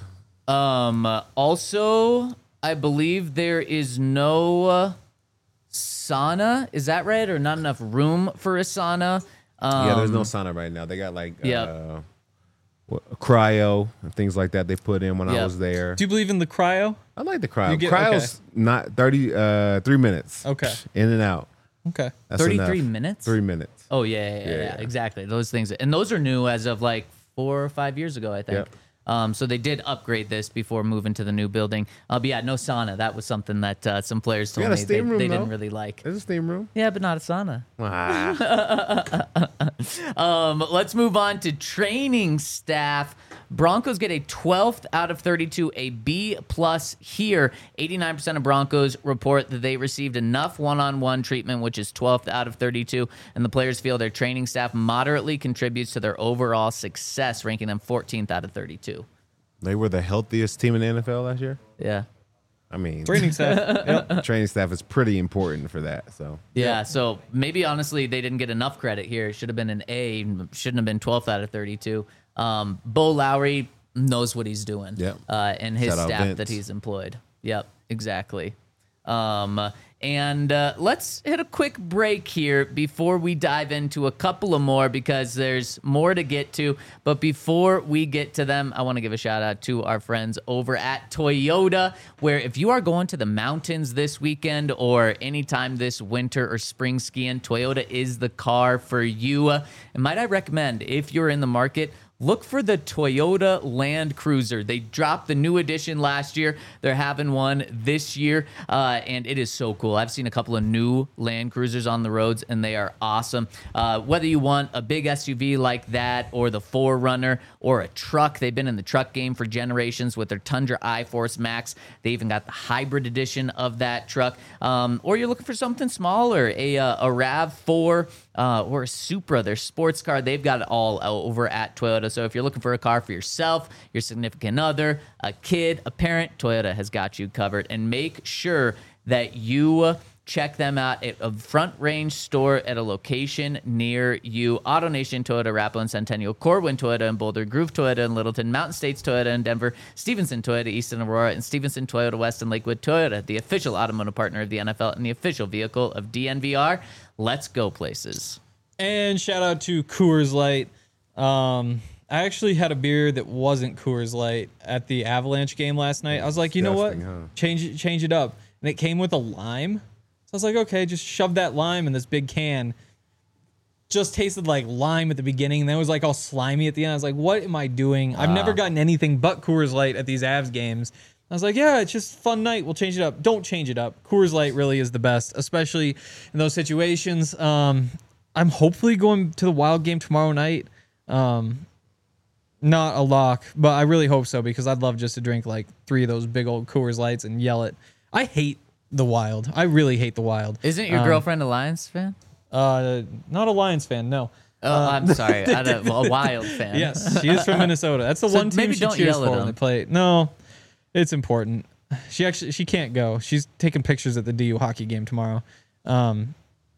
Speaker 2: Um. uh, Also, I believe there is no uh, sauna. Is that right? Or not enough room for a sauna? Um,
Speaker 3: yeah, there's no sauna right now. They got, like,
Speaker 2: yeah.
Speaker 3: uh, cryo and things like that they put in when I
Speaker 2: Yeah.
Speaker 3: was there.
Speaker 4: Do you believe in the cryo?
Speaker 3: I like the cryo.
Speaker 4: You get-
Speaker 3: Cryo's not thirty, uh, three minutes.
Speaker 4: Okay.
Speaker 3: In and out.
Speaker 4: Okay.
Speaker 3: That's
Speaker 2: thirty-three
Speaker 3: enough.
Speaker 2: minutes?
Speaker 3: Three minutes.
Speaker 2: Oh, yeah yeah, yeah, yeah,
Speaker 3: Yeah.
Speaker 2: exactly. Those things. And those are new as of like four or five years ago, I think.
Speaker 3: Yep.
Speaker 2: Um, so they did upgrade this before moving to the new building. Uh, but yeah, no sauna. That was something that uh, some players told
Speaker 3: got a
Speaker 2: me they,
Speaker 3: steam room,
Speaker 2: they didn't
Speaker 3: though.
Speaker 2: really like.
Speaker 3: There's a steam room.
Speaker 2: Yeah, but not a sauna.
Speaker 3: Ah.
Speaker 2: Um, let's move on to training staff. Broncos get a twelfth out of thirty-two, a B plus here. eighty-nine percent of Broncos report that they received enough one-on-one treatment, which is twelfth out of thirty-two, and the players feel their training staff moderately contributes to their overall success, ranking them fourteenth out of thirty-two.
Speaker 3: They were the healthiest team in the N F L last year.
Speaker 2: Yeah.
Speaker 3: I mean,
Speaker 4: Training staff. Yep.
Speaker 3: training staff is pretty important for that. So
Speaker 2: Yeah, so maybe honestly they didn't get enough credit here. It should have been an A, shouldn't have been twelfth out of thirty-two. Um, Bo Lowry knows what he's doing.
Speaker 3: Yep.
Speaker 2: Uh, and his
Speaker 3: Shout out
Speaker 2: staff
Speaker 3: Vince.
Speaker 2: that he's employed. Yep, exactly. Um, and uh, let's hit a quick break here before we dive into a couple of more because there's more to get to. But before we get to them, I want to give a shout out to our friends over at Toyota, where if you are going to the mountains this weekend or anytime this winter or spring skiing, Toyota is the car for you. And might I recommend, if you're in the market, look for the Toyota Land Cruiser. They dropped the new edition last year. They're having one this year, uh, and it is so cool. I've seen a couple of new Land Cruisers on the roads, and they are awesome. Uh, whether you want a big S U V like that or the four runner or a truck, they've been in the truck game for generations with their Tundra iForce Max. They even got the hybrid edition of that truck. Um, or you're looking for something smaller, a, uh, a RAV four uh, or a Supra, their sports car. They've got it all over at Toyota. So if you're looking for a car for yourself, your significant other, a kid, a parent, Toyota has got you covered. And make sure that you check them out at a Front Range store at a location near you. AutoNation Toyota, Arapahoe and Centennial, Corwin Toyota and Boulder, Groove Toyota and Littleton, Mountain States Toyota in Denver, Stevenson Toyota East and Aurora, and Stevenson Toyota West and Lakewood. Toyota, the official automotive partner of the N F L and the official vehicle of D N V R. Let's go places.
Speaker 4: And shout out to Coors Light. Um, I actually had a beer that wasn't Coors Light at the Avalanche game last night. I was like, you know what?
Speaker 3: Disgusting, huh?
Speaker 4: Change it, change it up. And it came with a lime. So I was like, okay, just shove that lime in this big can. Just tasted like lime at the beginning, and then it was like all slimy at the end. I was like, what am I doing? I've never gotten anything but Coors Light at these Avs games. I was like, yeah, it's just a fun night. We'll change it up. Don't change it up. Coors Light really is the best, especially in those situations. Um, I'm hopefully going to the Wild game tomorrow night. Um, not a lock, but I really hope so because I'd love just to drink like three of those big old Coors Lights and yell it. I hate the Wild. I really hate the Wild.
Speaker 2: Isn't your
Speaker 4: Um,
Speaker 2: girlfriend a Lions fan?
Speaker 4: Uh, not a Lions fan, no.
Speaker 2: Oh, I'm sorry. I don't- a Wild fan.
Speaker 4: Yes, she is from Minnesota. That's the
Speaker 2: So
Speaker 4: one team
Speaker 2: maybe
Speaker 4: she
Speaker 2: don't
Speaker 4: cheers
Speaker 2: yell at
Speaker 4: for when
Speaker 2: them.
Speaker 4: they play. No, it's important. She actually she can't go. She's taking pictures at the D U hockey game tomorrow. Um,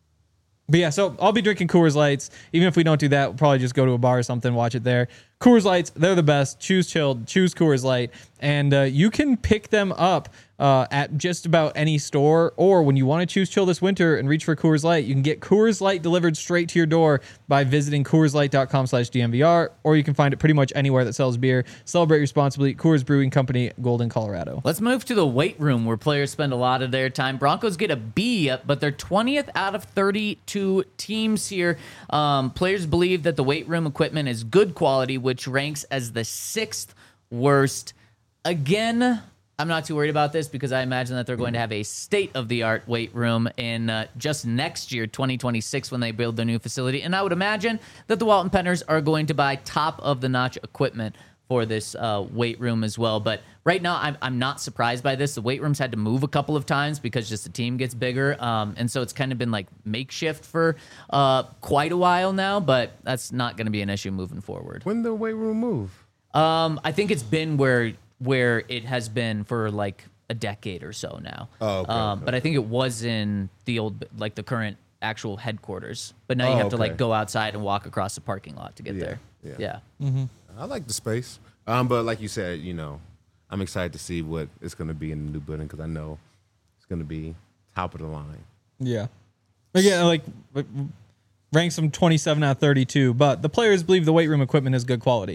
Speaker 4: but yeah, so I'll be drinking Coors Lights. Even if we don't do that, we'll probably just go to a bar or something, watch it there. Coors Lights, they're the best. Choose chilled, choose Coors Light, and uh, you can pick them up uh, at just about any store. Or when you want to choose chill this winter and reach for Coors Light, you can get Coors Light delivered straight to your door by visiting Coors Light dot com slash D M V R, or you can find it pretty much anywhere that sells beer. Celebrate responsibly. Coors Brewing Company, Golden, Colorado.
Speaker 2: Let's move to the weight room where players spend a lot of their time. Broncos get a B, but they're twentieth out of thirty-two teams here. Um, players believe that the weight room equipment is good quality, which ranks as the sixth worst. Again, I'm not too worried about this because I imagine that they're going to have a state-of-the-art weight room in uh, just next year, twenty twenty-six, when they build their new facility. And I would imagine that the Walton Penners are going to buy top-of-the-notch equipment for this uh, weight room as well. But right now, I'm, I'm not surprised by this. The weight room's had to move a couple of times because just the team gets bigger. Um, and so it's kind of been like makeshift for uh, quite a while now, but that's not going to be an issue moving forward.
Speaker 3: when the weight room move?
Speaker 2: Um, I think it's been where where it has been for like a decade or so now.
Speaker 3: Oh, okay,
Speaker 2: um,
Speaker 3: okay.
Speaker 2: But I think it was in the old, like the current actual headquarters. But now you
Speaker 3: Oh,
Speaker 2: have to like
Speaker 3: okay.
Speaker 2: go outside and walk across the parking lot to get
Speaker 3: Yeah,
Speaker 2: there.
Speaker 3: yeah.
Speaker 2: Yeah.
Speaker 3: I like the space. Um, but like you said, you know, I'm excited to see what it's going to be in the new building because I know it's going to be top of the line.
Speaker 4: Yeah. Again, like ranks them twenty-seven out of thirty-two, but the players believe the weight room equipment is good quality.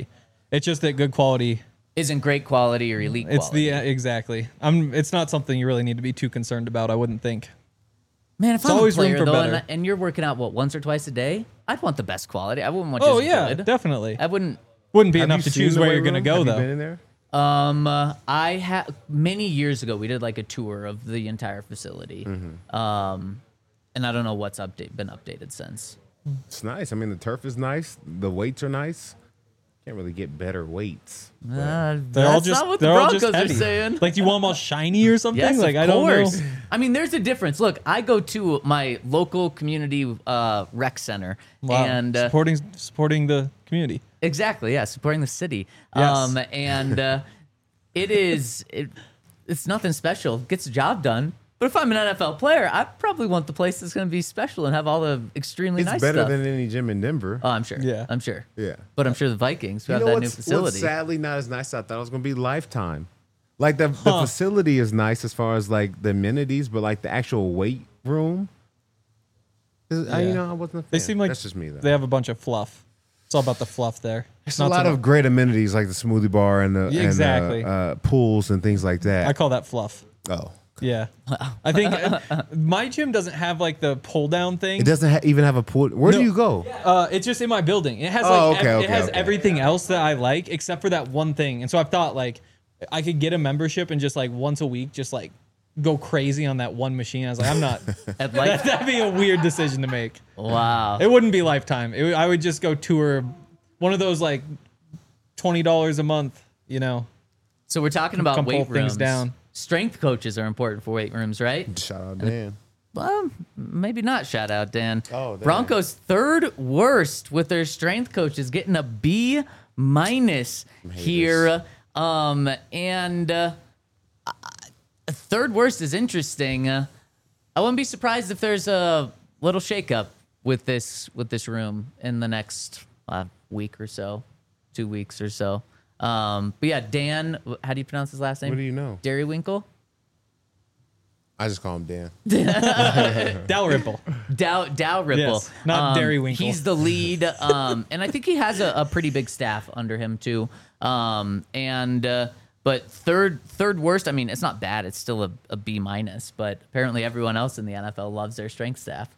Speaker 4: It's just that good quality.
Speaker 2: Isn't great quality or elite
Speaker 4: It's
Speaker 2: quality.
Speaker 4: the uh, exactly. I'm. It's not something you really need to be too concerned about. I wouldn't think.
Speaker 2: Man, if
Speaker 4: It's
Speaker 2: I'm
Speaker 4: always
Speaker 2: a
Speaker 4: room
Speaker 2: player
Speaker 4: for
Speaker 2: though,
Speaker 4: better.
Speaker 2: and, and you're working out what once or twice a day, I'd want the best quality. I wouldn't want
Speaker 4: Oh
Speaker 2: just
Speaker 4: yeah,
Speaker 2: good.
Speaker 4: definitely.
Speaker 2: I wouldn't.
Speaker 4: Wouldn't be
Speaker 3: Have
Speaker 4: enough
Speaker 3: you
Speaker 4: to
Speaker 3: seen
Speaker 4: choose
Speaker 3: the
Speaker 4: where
Speaker 3: weight
Speaker 4: you're gonna
Speaker 3: room?
Speaker 4: go
Speaker 3: Have you
Speaker 4: though.
Speaker 3: been in there?
Speaker 2: Um, uh, I had many years ago. We did like a tour of the entire facility.
Speaker 3: Mm-hmm.
Speaker 2: Um, and I don't know what's update been updated since.
Speaker 3: It's nice. I mean, the turf is nice. The weights are nice. Can't really get better weights.
Speaker 2: Uh,
Speaker 4: They're
Speaker 2: that's
Speaker 4: all just.
Speaker 2: not what
Speaker 4: they're
Speaker 2: the
Speaker 4: all
Speaker 2: Broncos
Speaker 4: just
Speaker 2: are
Speaker 4: heavy.
Speaker 2: saying.
Speaker 4: Like, do you want them all shiny or something?
Speaker 2: Yes,
Speaker 4: like,
Speaker 2: of
Speaker 4: I don't
Speaker 2: course.
Speaker 4: know.
Speaker 2: I mean, there's a difference. Look, I go to my local community uh, rec center,
Speaker 4: Wow.
Speaker 2: and uh,
Speaker 4: supporting supporting the community.
Speaker 2: exactly, yeah, supporting the city.
Speaker 4: Yes.
Speaker 2: Um, and uh, it is it, it's nothing special. Gets the job done. But if I'm an N F L player, I probably want the place that's going to be special and have all the extremely
Speaker 3: It's
Speaker 2: nice
Speaker 3: better
Speaker 2: stuff.
Speaker 3: than any gym in Denver.
Speaker 2: Oh, I'm sure.
Speaker 4: Yeah.
Speaker 2: I'm sure.
Speaker 3: Yeah.
Speaker 2: But I'm sure the Vikings who
Speaker 3: You
Speaker 2: have
Speaker 3: know
Speaker 2: that new
Speaker 3: what's,
Speaker 2: facility.
Speaker 3: what's sadly not as nice as I thought it was going to be Lifetime. Like the, the facility is nice as far as like the amenities, but like the actual weight room, is, I, you
Speaker 4: Yeah.
Speaker 3: know, I wasn't a fan.
Speaker 4: They seem like
Speaker 3: That's just me though.
Speaker 4: they have a bunch of fluff. It's all about the fluff there.
Speaker 3: There's
Speaker 4: Not
Speaker 3: a lot
Speaker 4: so
Speaker 3: of
Speaker 4: much-
Speaker 3: great amenities like the smoothie bar and the
Speaker 4: Yeah,
Speaker 3: and,
Speaker 4: exactly.
Speaker 3: uh, uh, pools and things like that.
Speaker 4: I call that fluff.
Speaker 3: oh,
Speaker 4: Yeah, I think uh, my gym doesn't have like the pull down thing.
Speaker 3: it doesn't ha- even have a pool. Where
Speaker 4: No.
Speaker 3: do you go?
Speaker 4: Uh, it's just in my building. It has like
Speaker 3: Oh,
Speaker 4: ev-
Speaker 3: okay,
Speaker 4: it
Speaker 3: okay,
Speaker 4: has
Speaker 3: okay.
Speaker 4: everything else that I like except for that one thing. And so I've thought like I could get a membership and just like once a week just like go crazy on that one machine. I was like, I'm not.
Speaker 2: At
Speaker 4: that,
Speaker 2: Life-
Speaker 4: that'd be a weird decision to make.
Speaker 2: wow.
Speaker 4: It wouldn't be Lifetime. It, would- I would just go tour one of those like twenty dollars a month. You know,
Speaker 2: So we're talking about
Speaker 4: Come pull
Speaker 2: weight
Speaker 4: things
Speaker 2: rooms.
Speaker 4: down.
Speaker 2: Strength coaches are important for weight rooms, right?
Speaker 3: Shout out Dan.
Speaker 2: Well, maybe not. Shout out, Dan.
Speaker 3: Oh, Dan.
Speaker 2: Broncos third worst with their strength coaches, getting a B minus here. Um, and uh, uh, third worst is interesting. Uh, I wouldn't be surprised if there's a little shakeup with this with this room in the next uh, week or so, two weeks or so. Um, but yeah, Dan, how do you pronounce his last name?
Speaker 3: What do you know?
Speaker 2: Derrywinkle?
Speaker 3: I just call him Dan.
Speaker 4: Dalrymple.
Speaker 2: Dow Dow Ripple,
Speaker 4: Yes, not
Speaker 2: um,
Speaker 4: Derrywinkle.
Speaker 2: He's the lead, um, and I think he has a, a pretty big staff under him too. Um, and uh, but third third worst. I mean, it's not bad. It's still a, a B minus. But apparently, everyone else in the N F L loves their strength staff.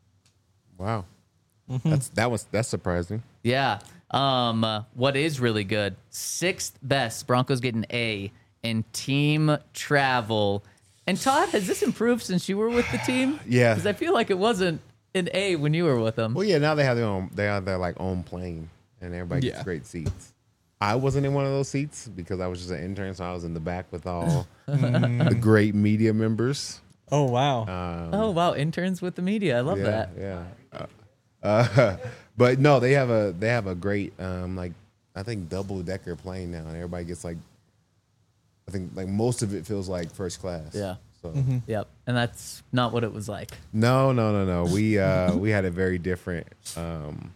Speaker 3: Wow,
Speaker 4: Mm-hmm.
Speaker 3: that's that was that's surprising.
Speaker 2: Yeah. Um, uh, what is really good? Sixth best. Broncos get an A in team travel. And Todd, has this improved since you were with the team?
Speaker 3: Yeah.
Speaker 2: Because I feel like it wasn't an A when you were with them.
Speaker 3: Well, yeah, now they have their own. They have their like own plane, and everybody gets
Speaker 4: Yeah.
Speaker 3: great seats. I wasn't in one of those seats because I was just an intern, so I was in the back with all the great media members.
Speaker 4: Oh wow.
Speaker 2: Oh wow, interns with the media. I love
Speaker 3: Yeah,
Speaker 2: that.
Speaker 3: yeah. Uh, uh, but no, they have a they have a great um like I think double decker plane now, and everybody gets like I think like most of it feels like first class.
Speaker 2: Yeah.
Speaker 3: So
Speaker 2: Yep. And that's not what it was like.
Speaker 3: no, no, no, no. We uh we had a very different. Um,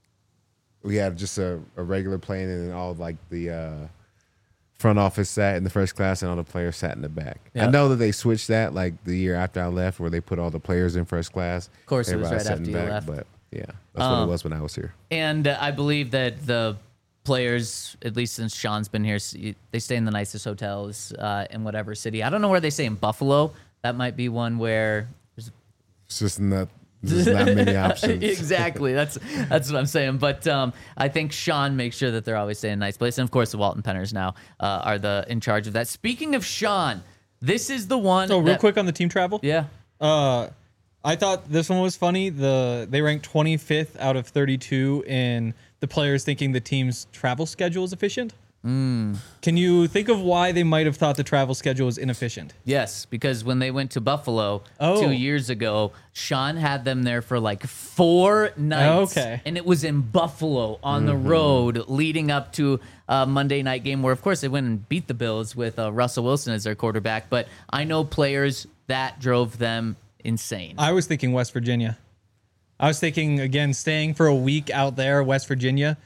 Speaker 3: we had just a, a regular plane, and then all of, like the uh, front office sat in the first class, and all the players sat in the back. I
Speaker 2: Yep.
Speaker 3: know that they switched that like the year after I left, where they put all the players in first class.
Speaker 2: Of course, it was
Speaker 3: Everybody
Speaker 2: right
Speaker 3: sat
Speaker 2: after
Speaker 3: in
Speaker 2: you
Speaker 3: back,
Speaker 2: left.
Speaker 3: But yeah, that's what
Speaker 2: Um,
Speaker 3: it was when I was here.
Speaker 2: And uh, I believe that the players, at least since Sean's been here, s- they stay in the nicest hotels uh, in whatever city. I don't know where they stay in Buffalo. That might be one where there's
Speaker 3: It's just not there's not many options.
Speaker 2: exactly. That's that's what I'm saying. But um, I think Sean makes sure that they're always staying in a nice place. And of course, the Walton Penners now uh, are the in charge of that. Speaking of Sean, this is the one.
Speaker 4: So real
Speaker 2: that-
Speaker 4: quick on the team travel.
Speaker 2: Yeah.
Speaker 4: Uh, I thought this one was funny. The they ranked twenty-fifth out of thirty-two in the players thinking the team's travel schedule is efficient.
Speaker 2: Mm.
Speaker 4: Can you think of why they might have thought the travel schedule was inefficient?
Speaker 2: Yes, because when they went to Buffalo
Speaker 4: Oh.
Speaker 2: two years ago, Sean had them there for like four nights.
Speaker 4: Okay.
Speaker 2: And it was in Buffalo on the road leading up to a Monday night game where, of course, they went and beat the Bills with uh, Russell Wilson as their quarterback. But I know players that drove them insane.
Speaker 4: I was thinking West Virginia. I was thinking, again, staying for a week out there, West Virginia.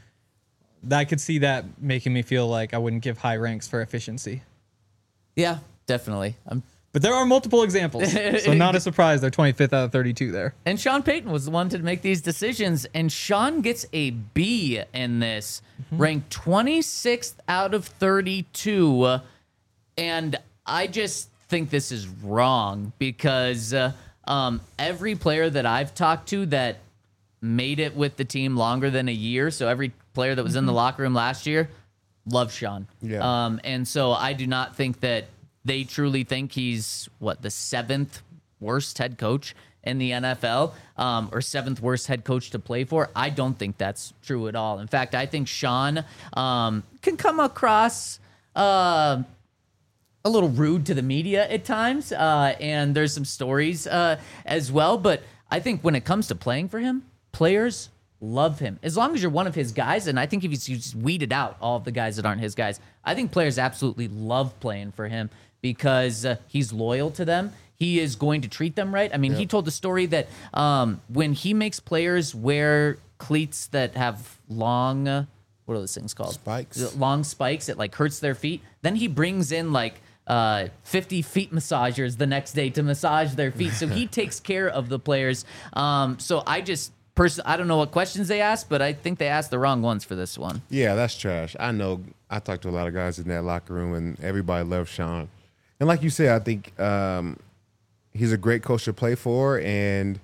Speaker 4: I could see that making me feel like I wouldn't give high ranks for efficiency.
Speaker 2: Yeah, definitely. I'm
Speaker 4: But there are multiple examples, so not a surprise they're twenty-fifth out of thirty-two there.
Speaker 2: And Sean Payton was the one to make these decisions, and Sean gets a B in this, mm-hmm. ranked twenty-sixth out of thirty-two. And I just think this is wrong because uh, um, every player that I've talked to that made it with the team longer than a year, so every player that was mm-hmm. in the locker room last year, loved Sean.
Speaker 3: Yeah.
Speaker 2: Um, and so I do not think that they truly think he's, what, the seventh worst head coach in the N F L, um, or seventh worst head coach to play for. I don't think that's true at all. In fact, I think Sean um, can come across uh, a little rude to the media at times, uh, and there's some stories uh, as well. But I think when it comes to playing for him, players love him. As long as you're one of his guys, and I think if he's just weeded out all of the guys that aren't his guys, I think players absolutely love playing for him because uh, he's loyal to them. He is going to treat them right. I mean, yep. he told the story that um, when he makes players wear cleats that have long, uh, what are those things called?
Speaker 3: Spikes.
Speaker 2: Long spikes. It like hurts their feet. Then he brings in like uh, fifty feet massagers the next day to massage their feet. So he takes care of the players. Um, so I just, Person, I don't know what questions they asked, but I think they asked the wrong ones for this one.
Speaker 3: Yeah, that's trash. I know. I talked to a lot of guys in that locker room, and everybody loves Sean. And like you said, I think um, he's a great coach to play for, and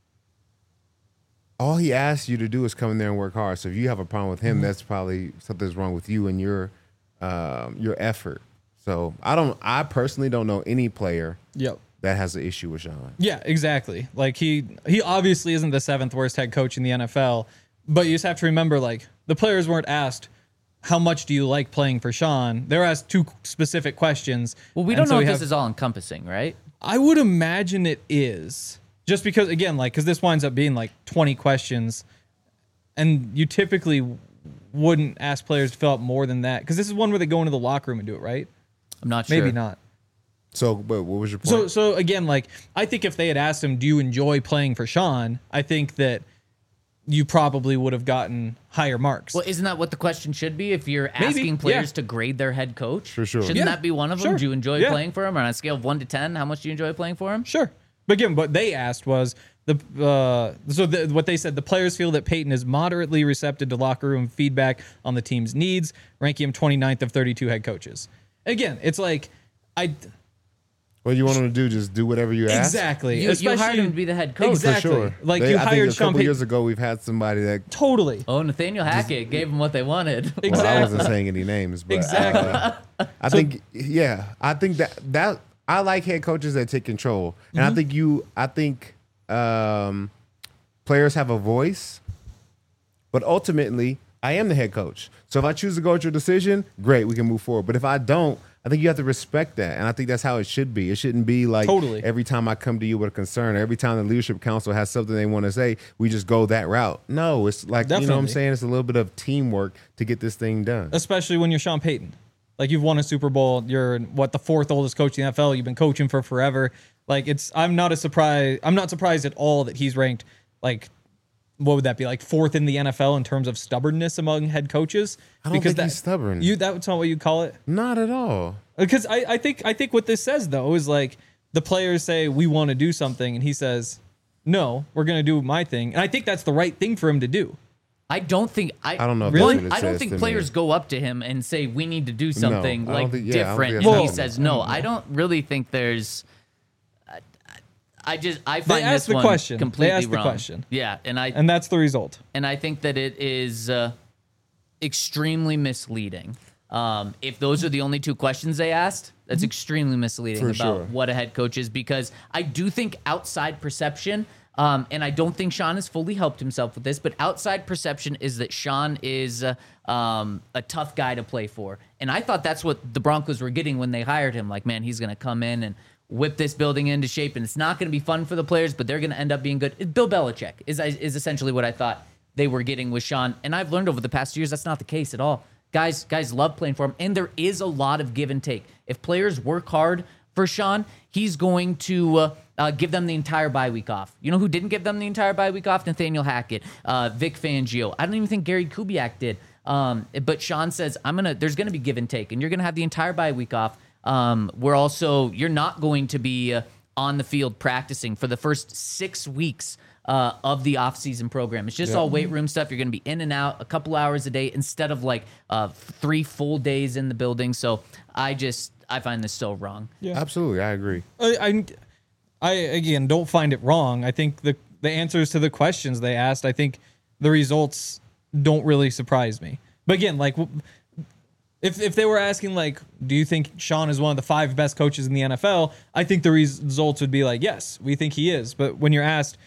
Speaker 3: all he asks you to do is come in there and work hard. So if you have a problem with him, mm-hmm. that's probably something's wrong with you and your um, your effort. So I don't. I personally don't know any player.
Speaker 4: Yep.
Speaker 3: That has an issue with Sean.
Speaker 4: Yeah, exactly. Like he he obviously isn't the seventh worst head coach in the N F L, but you just have to remember, like, the players weren't asked, how much do you like playing for Sean? They were asked two specific questions.
Speaker 2: Well, we don't
Speaker 4: so
Speaker 2: know
Speaker 4: we
Speaker 2: if
Speaker 4: have,
Speaker 2: this is all encompassing, right?
Speaker 4: I would imagine it is. Just because, again, like, because this winds up being like twenty questions, and you typically wouldn't ask players to fill out more than that, because this is one where they go into the locker room and do it, right?
Speaker 2: I'm not sure.
Speaker 4: Maybe not.
Speaker 3: So, but what was your point?
Speaker 4: So, so again, like, I think if they had asked him, do you enjoy playing for Sean? I think that you probably would have gotten higher marks.
Speaker 2: Well, isn't that what the question should be? If you're
Speaker 4: Maybe,
Speaker 2: asking players
Speaker 4: yeah.
Speaker 2: to grade their head coach,
Speaker 3: For sure.
Speaker 2: shouldn't
Speaker 4: Yeah,
Speaker 2: that be one of them?
Speaker 4: sure.
Speaker 2: Do you enjoy
Speaker 4: Yeah.
Speaker 2: playing for him? Or on a scale of one to ten, how much do you enjoy playing for him?
Speaker 4: Sure. But again, what they asked was, the uh, so the, what they said, the players feel that Peyton is moderately receptive to locker room feedback on the team's needs, ranking him twenty-ninth of thirty-two head coaches. Again, it's like, I...
Speaker 3: What do you want him to do? Just do whatever you ask?
Speaker 4: Exactly.
Speaker 2: You, you
Speaker 4: Especially-
Speaker 2: hired him to be the head coach.
Speaker 4: Exactly.
Speaker 3: For sure.
Speaker 4: Like,
Speaker 3: They-
Speaker 4: you
Speaker 3: I think
Speaker 4: hired
Speaker 3: a
Speaker 4: Sean
Speaker 3: couple
Speaker 4: Payton-
Speaker 3: years ago, we've had somebody that.
Speaker 4: Totally.
Speaker 2: Oh, Nathaniel Hackett gave him what they wanted.
Speaker 3: Well, I
Speaker 4: Exactly.
Speaker 3: wasn't saying any names, but
Speaker 4: Exactly.
Speaker 3: uh, I think yeah, I think that that I like head coaches that take control, and
Speaker 4: Mm-hmm.
Speaker 3: I think you, I think um, players have a voice, but ultimately, I am the head coach. So if I choose to go with your decision, great, we can move forward. But if I don't, I think you have to respect that, and I think that's how it should be. It shouldn't be like
Speaker 4: Totally.
Speaker 3: every time I come to you with a concern, or every time the leadership council has something they want to say, we just go that route. No, it's like, you know what I'm
Speaker 4: Definitely.
Speaker 3: saying? It's a little bit of teamwork to get this thing done.
Speaker 4: Especially when you're Sean Payton. Like, you've won a Super Bowl. You're, what, the fourth oldest coach in the N F L. You've been coaching for forever. Like, it's, I'm not a surprise. I'm not surprised at all that he's ranked, like, what would that be, like fourth in the N F L in terms of stubbornness among head coaches?
Speaker 3: I don't
Speaker 4: because
Speaker 3: think
Speaker 4: that,
Speaker 3: he's stubborn.
Speaker 4: You, that's not what you call it?
Speaker 3: Not at all.
Speaker 4: Because I, I think I think what this says, though, is like the players say, we want to do something, and he says, no, we're going to do my thing. And I think that's the right thing for him to do.
Speaker 2: I don't think I.
Speaker 3: I don't know if
Speaker 4: Really?
Speaker 3: that's what it
Speaker 2: I don't
Speaker 3: says
Speaker 2: think
Speaker 3: to
Speaker 2: players
Speaker 3: me.
Speaker 2: go up to him and say, we need to do something
Speaker 3: I don't
Speaker 2: like
Speaker 3: think- yeah, I don't
Speaker 2: different,
Speaker 3: think
Speaker 2: and
Speaker 3: that's
Speaker 2: he
Speaker 3: happening.
Speaker 2: says no. I don't really think there's. I, I just I find
Speaker 4: asked
Speaker 2: this
Speaker 4: the
Speaker 2: one
Speaker 4: question. They
Speaker 2: completely
Speaker 4: asked the
Speaker 2: wrong.
Speaker 4: question.
Speaker 2: Yeah, and I
Speaker 4: And that's the result.
Speaker 2: and I think that it is uh, extremely misleading. Um, if those are the only two questions they asked, that's extremely misleading
Speaker 3: For
Speaker 2: about
Speaker 3: sure.
Speaker 2: what a head coach is, because I do think outside perception, um, and I don't think Sean has fully helped himself with this, but outside perception is that Sean is uh, um, a tough guy to play for. And I thought that's what the Broncos were getting when they hired him. Like, man, he's going to come in and whip this building into shape, and it's not going to be fun for the players, but they're going to end up being good. Bill Belichick is, is essentially what I thought they were getting with Sean. And I've learned over the past years that's not the case at all. Guys, guys love playing for him, and there is a lot of give and take. If players work hard for Sean, he's going to uh, uh, give them the entire bye week off. You know who didn't give them the entire bye week off? Nathaniel Hackett, uh, Vic Fangio. I don't even think Gary Kubiak did. Um, but Sean says, "I'm gonna. There's gonna be give and take, and you're gonna have the entire bye week off. Um, we're also, you're not going to be uh, on the field practicing for the first six weeks uh, of the off-season program. It's just
Speaker 3: Yeah.
Speaker 2: all weight room stuff. You're going to be in and out a couple hours a day instead of like uh, three full days in the building. So I just, I find this so wrong.
Speaker 4: Yeah.
Speaker 3: Absolutely, I agree.
Speaker 4: I, I, I again don't find it wrong. I think the the answers to the questions they asked, I think the results don't really surprise me. But again, like if if they were asking like, do you think Sean is one of the five best coaches in the N F L? I think the results would be like, yes, we think he is. But when you're asked,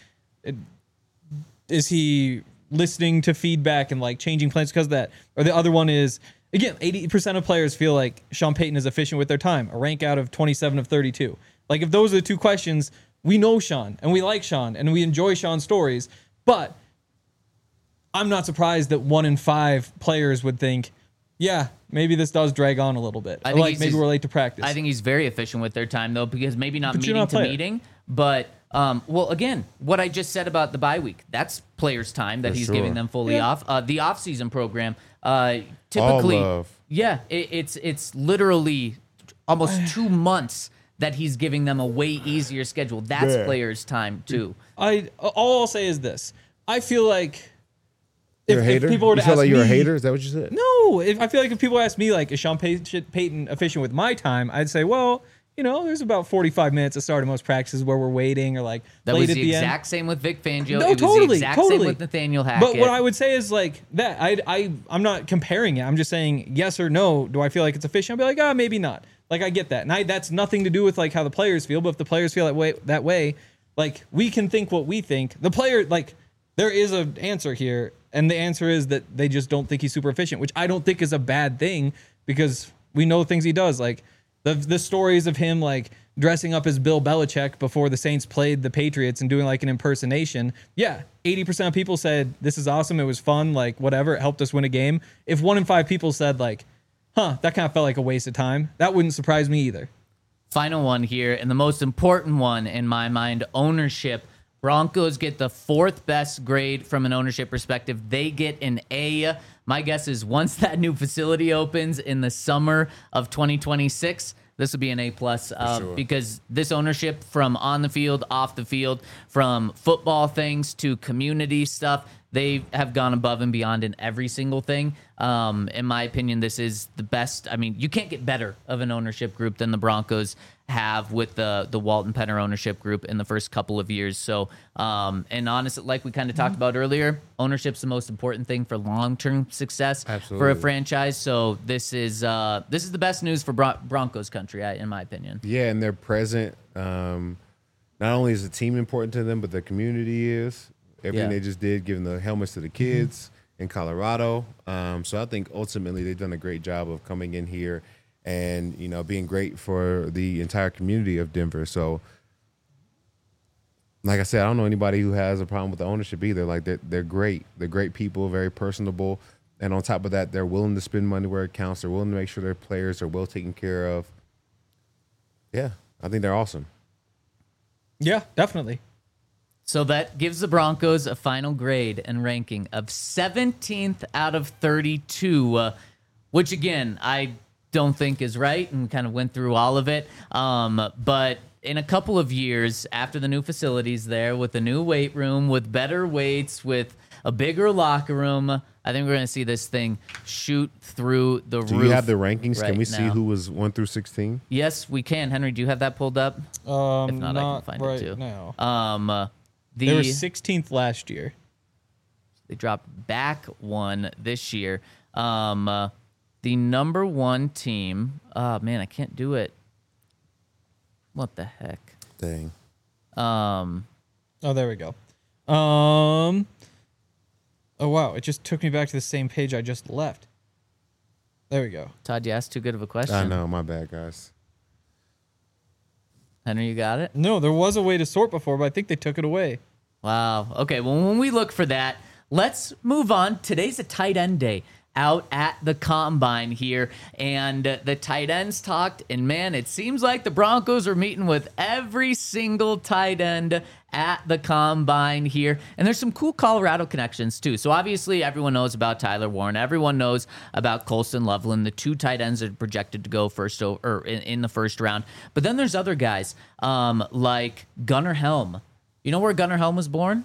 Speaker 4: is he listening to feedback and like changing plans because of that? Or the other one is, again, eighty percent of players feel like Sean Payton is efficient with their time, a rank out of twenty-seven of thirty-two. Like, if those are the two questions, we know Sean, and we like Sean, and we enjoy Sean's stories, but I'm not surprised that one in five players would think, yeah, maybe this does drag on a little bit.
Speaker 2: I
Speaker 4: Or
Speaker 2: think
Speaker 4: like,
Speaker 2: he's
Speaker 4: maybe
Speaker 2: just-
Speaker 4: we're late to practice.
Speaker 2: I think he's very efficient with their time, though, because maybe not
Speaker 4: But you're
Speaker 2: meeting
Speaker 4: not a
Speaker 2: to
Speaker 4: player.
Speaker 2: meeting, but, um, well, again, what I just said about the bye week, that's players' time that
Speaker 3: For
Speaker 2: he's
Speaker 3: sure.
Speaker 2: giving them fully
Speaker 4: Yeah.
Speaker 2: off. Uh, the off-season program, uh, typically,
Speaker 3: love.
Speaker 2: yeah, it, it's it's literally almost two months that he's giving them a way easier schedule. That's
Speaker 3: Yeah.
Speaker 2: players' time, too.
Speaker 4: I all I'll say is this: I feel like if,
Speaker 3: You're a
Speaker 4: if
Speaker 3: hater?
Speaker 4: people were to
Speaker 3: you feel
Speaker 4: ask
Speaker 3: like you're
Speaker 4: me,
Speaker 3: a hater? Is that what you said?
Speaker 4: no, if I feel like if people ask me like, is Sean Pay- Payton efficient with my time? I'd say, well, you know, there's about forty-five minutes to start in most practices where we're waiting or like
Speaker 2: That
Speaker 4: late
Speaker 2: was
Speaker 4: at
Speaker 2: the
Speaker 4: the
Speaker 2: exact
Speaker 4: end.
Speaker 2: same with Vic Fangio.
Speaker 4: No,
Speaker 2: it was
Speaker 4: totally,
Speaker 2: the exact
Speaker 4: totally.
Speaker 2: same with Nathaniel Hackett.
Speaker 4: But what I would say is like that. I I I'm not comparing it. I'm just saying yes or no. Do I feel like it's efficient? I'll be like, ah, oh, maybe not. Like I get that, and I, that's nothing to do with like how the players feel. But if the players feel that way, that way, like we can think what we think. The player, like there is an answer here, and the answer is that they just don't think he's super efficient, which I don't think is a bad thing because we know things he does. Like the the stories of him like dressing up as Bill Belichick before the Saints played the Patriots and doing like an impersonation. Yeah, eighty percent of people said this is awesome. It was fun. Like whatever, it helped us win a game. If one in five people said like, huh, that kind of felt like a waste of time, that wouldn't surprise me either.
Speaker 2: Final one here, and the most important one in my mind, ownership. Broncos get the fourth best grade from an ownership perspective. They get an A. My guess is once that new facility opens in the summer of twenty twenty-six, this will be an A plus uh,
Speaker 3: sure.
Speaker 2: because this ownership from on the field, off the field, from football things to community stuff, they have gone above and beyond in every single thing. Um, in my opinion, this is the best. I mean, you can't get better of an ownership group than the Broncos have with the the Walton Penner ownership group in the first couple of years. So, um, and honestly, like we kind of talked about earlier, ownership's the most important thing for long-term success for a
Speaker 3: Absolutely.
Speaker 2: franchise. So this is uh, this is the best news for Bron- Broncos country, I- in my opinion.
Speaker 3: Yeah, and they're present. Um, not only is the team important to them, but the community is. Everything
Speaker 2: Yeah.
Speaker 3: they just did, giving the helmets to the kids in Colorado. Um, so I think ultimately they've done a great job of coming in here and, you know, being great for the entire community of Denver. So, like I said, I don't know anybody who has a problem with the ownership either. Like they're, they're great. They're great people, very personable. And on top of that, they're willing to spend money where it counts. They're willing to make sure their players are well taken care of. Yeah, I think they're awesome.
Speaker 4: Yeah, definitely.
Speaker 2: So that gives the Broncos a final grade and ranking of seventeenth out of thirty-two, uh, which again, I don't think is right, and kind of went through all of it. Um, but in a couple of years, after the new facilities there, with the new weight room, with better weights, with a bigger locker room, I think we're going to see this thing shoot through the
Speaker 3: Do
Speaker 2: roof.
Speaker 3: you have the rankings?
Speaker 2: right
Speaker 3: Can we see
Speaker 2: now.
Speaker 3: who was one through sixteen?
Speaker 2: Yes, we can. Henry, do you have that pulled up?
Speaker 4: Um,
Speaker 2: If not, I can find
Speaker 4: right
Speaker 2: it too.
Speaker 4: now.
Speaker 2: Um, uh, the,
Speaker 4: They were sixteenth last year.
Speaker 2: They dropped back one this year. Um, uh, the number one team. Oh man, I can't do it. What the heck?
Speaker 3: Dang.
Speaker 2: Um,
Speaker 4: Oh, there we go. Um. Oh wow! It just took me back to the same page I just left. There we go.
Speaker 2: Todd, you asked too good of a question.
Speaker 3: I know. My bad, guys.
Speaker 2: Henry, you got it?
Speaker 4: No, there was a way to sort before, but I think they took it away.
Speaker 2: Wow. Okay. Well, when we look for that, let's move on. Today's a tight end day. out at the combine here, and uh, the tight ends talked, and man, it seems like the Broncos are meeting with every single tight end at the combine here. And there's some cool Colorado connections too. So obviously everyone knows about Tyler Warren. Everyone knows about Colston Loveland, the two tight ends that are projected to go first or in, in the first round. But then there's other guys um, like Gunnar Helm. You know where Gunnar Helm was born?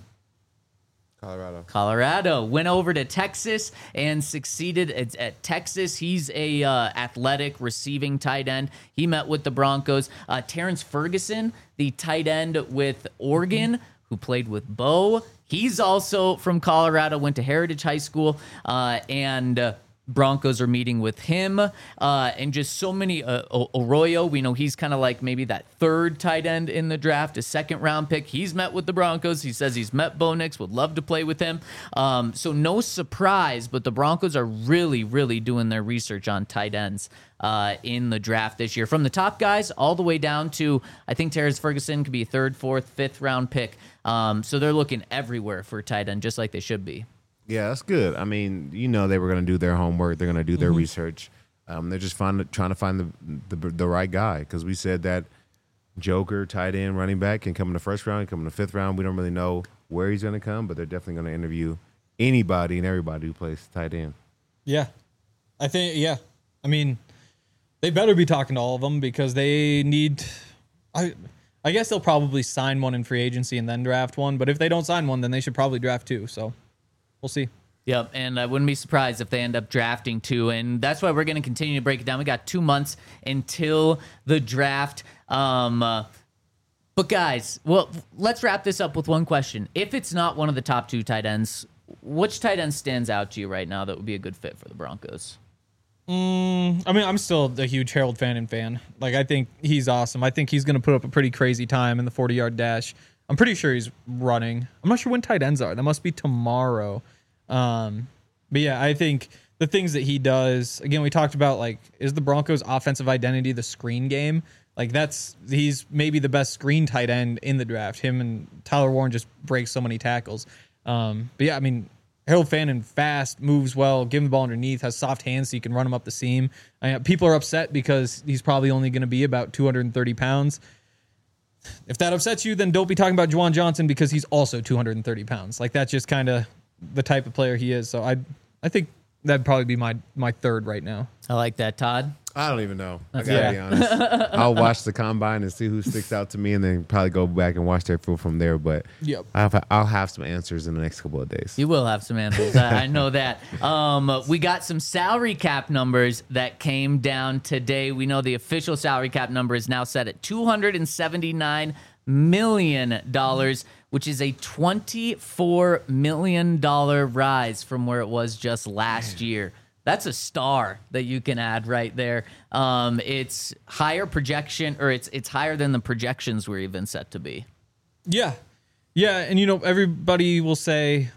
Speaker 3: Colorado.
Speaker 2: Colorado. Went over to Texas and succeeded at, at Texas. He's a uh, athletic receiving tight end. He met with the Broncos. Uh, Terrence Ferguson, the tight end with Oregon, who played with Bo. He's also from Colorado, went to Heritage High School, uh, and uh, Broncos are meeting with him, uh, and just so many. Uh, Arroyo, we know he's kind of like maybe that third tight end in the draft, a second round pick. He's met with the Broncos. He says he's met Bo Nix, would love to play with him. Um, so no surprise, but the Broncos are really, really doing their research on tight ends uh, in the draft this year. From the top guys all the way down to, I think Terrence Ferguson could be a third, fourth, fifth round pick. Um, so they're looking everywhere for tight end, just like they should be.
Speaker 3: Yeah, that's good. I mean, you know they were going to do their homework. They're going to do their mm-hmm. research. Um, they're just find, trying to find the the, the right guy, because we said that Joker, tight end, running back can come in the first round, come in the fifth round. We don't really know where he's going to come, but they're definitely going to interview anybody and everybody who plays tight end.
Speaker 4: Yeah, I think, yeah. I mean, they better be talking to all of them, because they need – I I guess they'll probably sign one in free agency and then draft one, but if they don't sign one, then they should probably draft two, so – we'll see.
Speaker 2: Yep, and I wouldn't be surprised if they end up drafting two, and that's why we're going to continue to break it down. We got two months until the draft. Um, uh, but guys, well, let's wrap this up with one question. If it's not one of the top two tight ends, which tight end stands out to you right now that would be a good fit for the Broncos?
Speaker 4: Mm, I mean, I'm still a huge Harold Fannin fan. Like, I think he's awesome. I think he's going to put up a pretty crazy time in the forty-yard dash. I'm pretty sure he's running. I'm not sure when tight ends are. That must be tomorrow. Um, but yeah, I think the things that he does, again, we talked about, like, is the Broncos' offensive identity the screen game? Like, that's, he's maybe the best screen tight end in the draft. Him and Tyler Warren just break so many tackles. Um, but yeah, I mean, Harold Fannin, fast, moves well, give him the ball underneath, has soft hands so you can run him up the seam. I mean, people are upset because he's probably only going to be about two hundred thirty pounds. If that upsets you, then don't be talking about Juwan Johnson, because he's also two hundred thirty pounds. Like, that's just kind of the type of player he is. So I I think that'd probably be my my third right now.
Speaker 2: I like that, Todd.
Speaker 3: I don't even know. I gotta
Speaker 4: yeah.
Speaker 3: be honest. I'll watch the combine and see who sticks out to me, and then probably go back and watch their film from there. But
Speaker 4: yep.
Speaker 3: I'll, have, I'll have some answers in the next couple of days.
Speaker 2: You will have some answers. I, I know that. Um, we got some salary cap numbers that came down today. We know the official salary cap number is now set at two hundred seventy-nine million dollars, which is a twenty-four million dollars rise from where it was just last Man. year. That's a star that you can add right there. Um, it's higher projection, or it's it's higher than the projections were even set to be.
Speaker 4: Yeah. Yeah, and you know, everybody will say,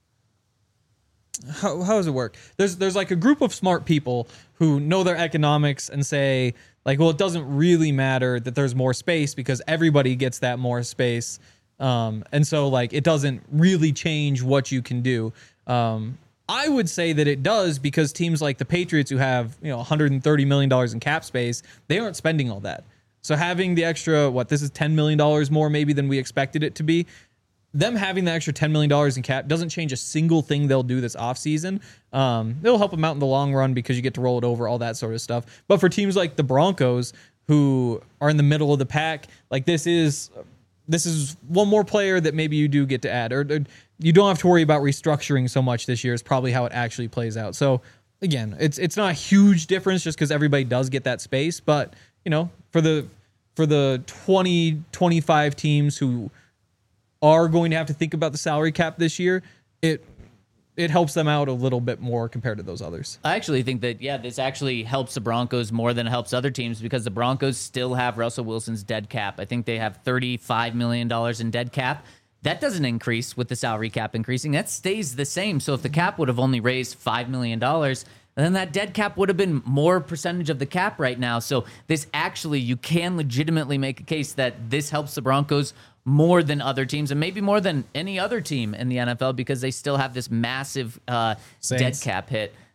Speaker 4: how how does it work? There's there's like a group of smart people who know their economics and say, like, well, it doesn't really matter that there's more space because everybody gets that more space. Um, and so, like, it doesn't really change what you can do. Um, I would say that it does, because teams like the Patriots, who have, you know, one hundred thirty million dollars in cap space, they aren't spending all that. So having the extra, what, this is ten million dollars more maybe than we expected it to be. Them having the extra ten million dollars in cap doesn't change a single thing they'll do this offseason. Um, it'll help them out in the long run because you get to roll it over, all that sort of stuff. But for teams like the Broncos, who are in the middle of the pack, like, this is this is one more player that maybe you do get to add. Or, or you don't have to worry about restructuring so much this year is probably how it actually plays out. So, again, it's it's not a huge difference just because everybody does get that space. But, you know, for the for the twenty, twenty-five teams who are going to have to think about the salary cap this year, it it helps them out a little bit more compared to those others.
Speaker 2: I actually think that, yeah, this actually helps the Broncos more than it helps other teams, because the Broncos still have Russell Wilson's dead cap. I think they have thirty-five million dollars in dead cap. That doesn't increase with the salary cap increasing. That stays the same. So if the cap would have only raised five million dollars, then that dead cap would have been more percentage of the cap right now. So this actually, you can legitimately make a case that this helps the Broncos more than other teams, and maybe more than any other team in the N F L, because they still have this massive uh, dead cap hit.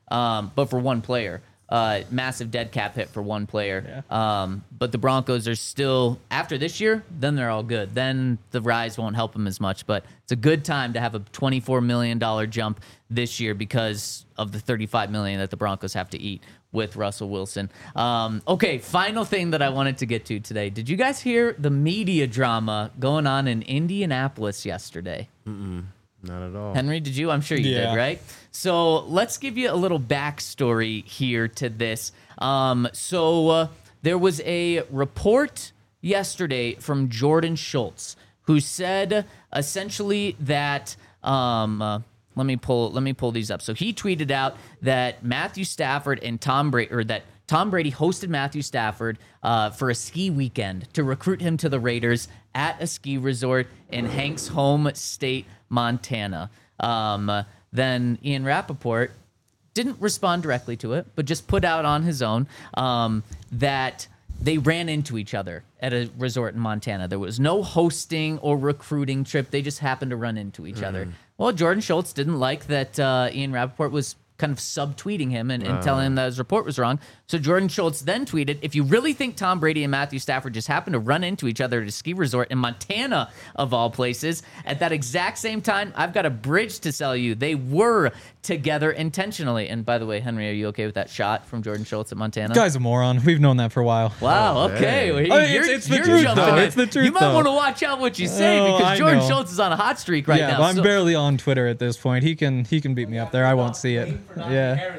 Speaker 2: um, but for one player. Uh, massive dead cap hit for one player. Yeah. Um, but the Broncos are still, after this year, then they're all good. Then the rise won't help them as much. But it's a good time to have a twenty-four million dollars jump this year because of the thirty-five million dollars that the Broncos have to eat with Russell Wilson. Um, okay, final thing that I wanted to get to today. Did you guys hear the media drama going on in Indianapolis yesterday?
Speaker 3: Mm-mm. Not at all.
Speaker 2: Henry, did you? I'm sure you
Speaker 4: Yeah.
Speaker 2: did, right? So let's give you a little backstory here to this. Um, so uh, there was a report yesterday from Jordan Schultz who said essentially that. Um, uh, let me pull. Let me pull these up. So he tweeted out that Matthew Stafford and Tom Brady, or that Tom Brady hosted Matthew Stafford uh, for a ski weekend to recruit him to the Raiders at a ski resort in Hank's home state, Montana. Um, then Ian Rappaport didn't respond directly to it, but just put out on his own um, that they ran into each other at a resort in Montana. There was no hosting or recruiting trip. They just happened to run into each mm. other. Well, Jordan Schultz didn't like that uh, Ian Rappaport was kind of subtweeting him and, and uh. telling him that his report was wrong. So Jordan Schultz then tweeted, if you really think Tom Brady and Matthew Stafford just happened to run into each other at a ski resort in Montana, of all places, at that exact same time, I've got a bridge to sell you. They were together intentionally. And by the way, Henry, are you okay with that shot from Jordan Schultz at Montana?
Speaker 4: Guy's a moron. We've known that for a while.
Speaker 2: Wow,
Speaker 3: Oh,
Speaker 2: okay. Well,
Speaker 4: I mean,
Speaker 2: you're,
Speaker 4: it's, it's the
Speaker 2: you're
Speaker 4: truth,
Speaker 2: jumping
Speaker 4: though.
Speaker 2: in.
Speaker 4: It's the truth,
Speaker 2: You might
Speaker 4: though.
Speaker 2: want to watch out what you say
Speaker 4: Oh,
Speaker 2: because
Speaker 4: I
Speaker 2: Jordan
Speaker 4: know.
Speaker 2: Schultz is on a hot streak right
Speaker 4: yeah,
Speaker 2: now.
Speaker 4: but I'm
Speaker 2: So-
Speaker 4: barely on Twitter at this point. He can he can beat me up there. I won't see it. Yeah.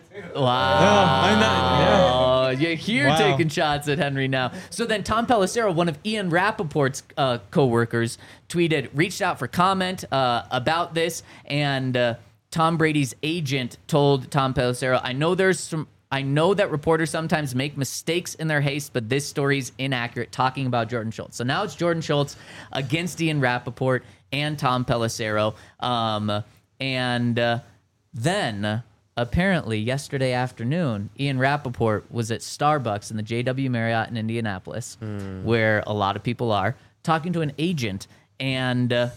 Speaker 2: Wow.
Speaker 4: I'm not- yeah.
Speaker 2: Oh, you're here
Speaker 4: Wow.
Speaker 2: taking shots at Henry now. So then Tom Pelissero, one of Ian Rappaport's uh, co-workers, tweeted, reached out for comment uh, about this, and uh, Tom Brady's agent told Tom Pelissero, I know there's some I know that reporters sometimes make mistakes in their haste, but this story's inaccurate, talking about Jordan Schultz. So now it's Jordan Schultz against Ian Rappaport and Tom Pelissero. Um, and uh, then, apparently, yesterday afternoon, Ian Rappaport was at Starbucks in the J W Marriott in Indianapolis, mm. where a lot of people are, talking to an agent. And uh,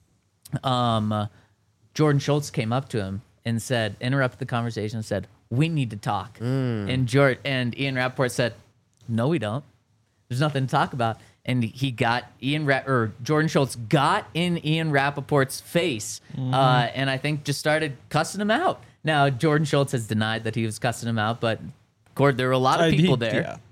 Speaker 2: um, uh, Jordan Schultz came up to him and said, interrupted the conversation and said, we need to talk. Mm. And George, and Ian Rappaport said, no, we don't. There's nothing to talk about. And he got Ian Ra- or Jordan Schultz got in Ian Rappaport's face, mm. uh, and I think just started cussing him out. Now Jordan Schultz has denied that he was cussing him out, but Cord, there were a lot of
Speaker 4: Uh,
Speaker 2: people
Speaker 4: he-
Speaker 2: there.
Speaker 4: Yeah.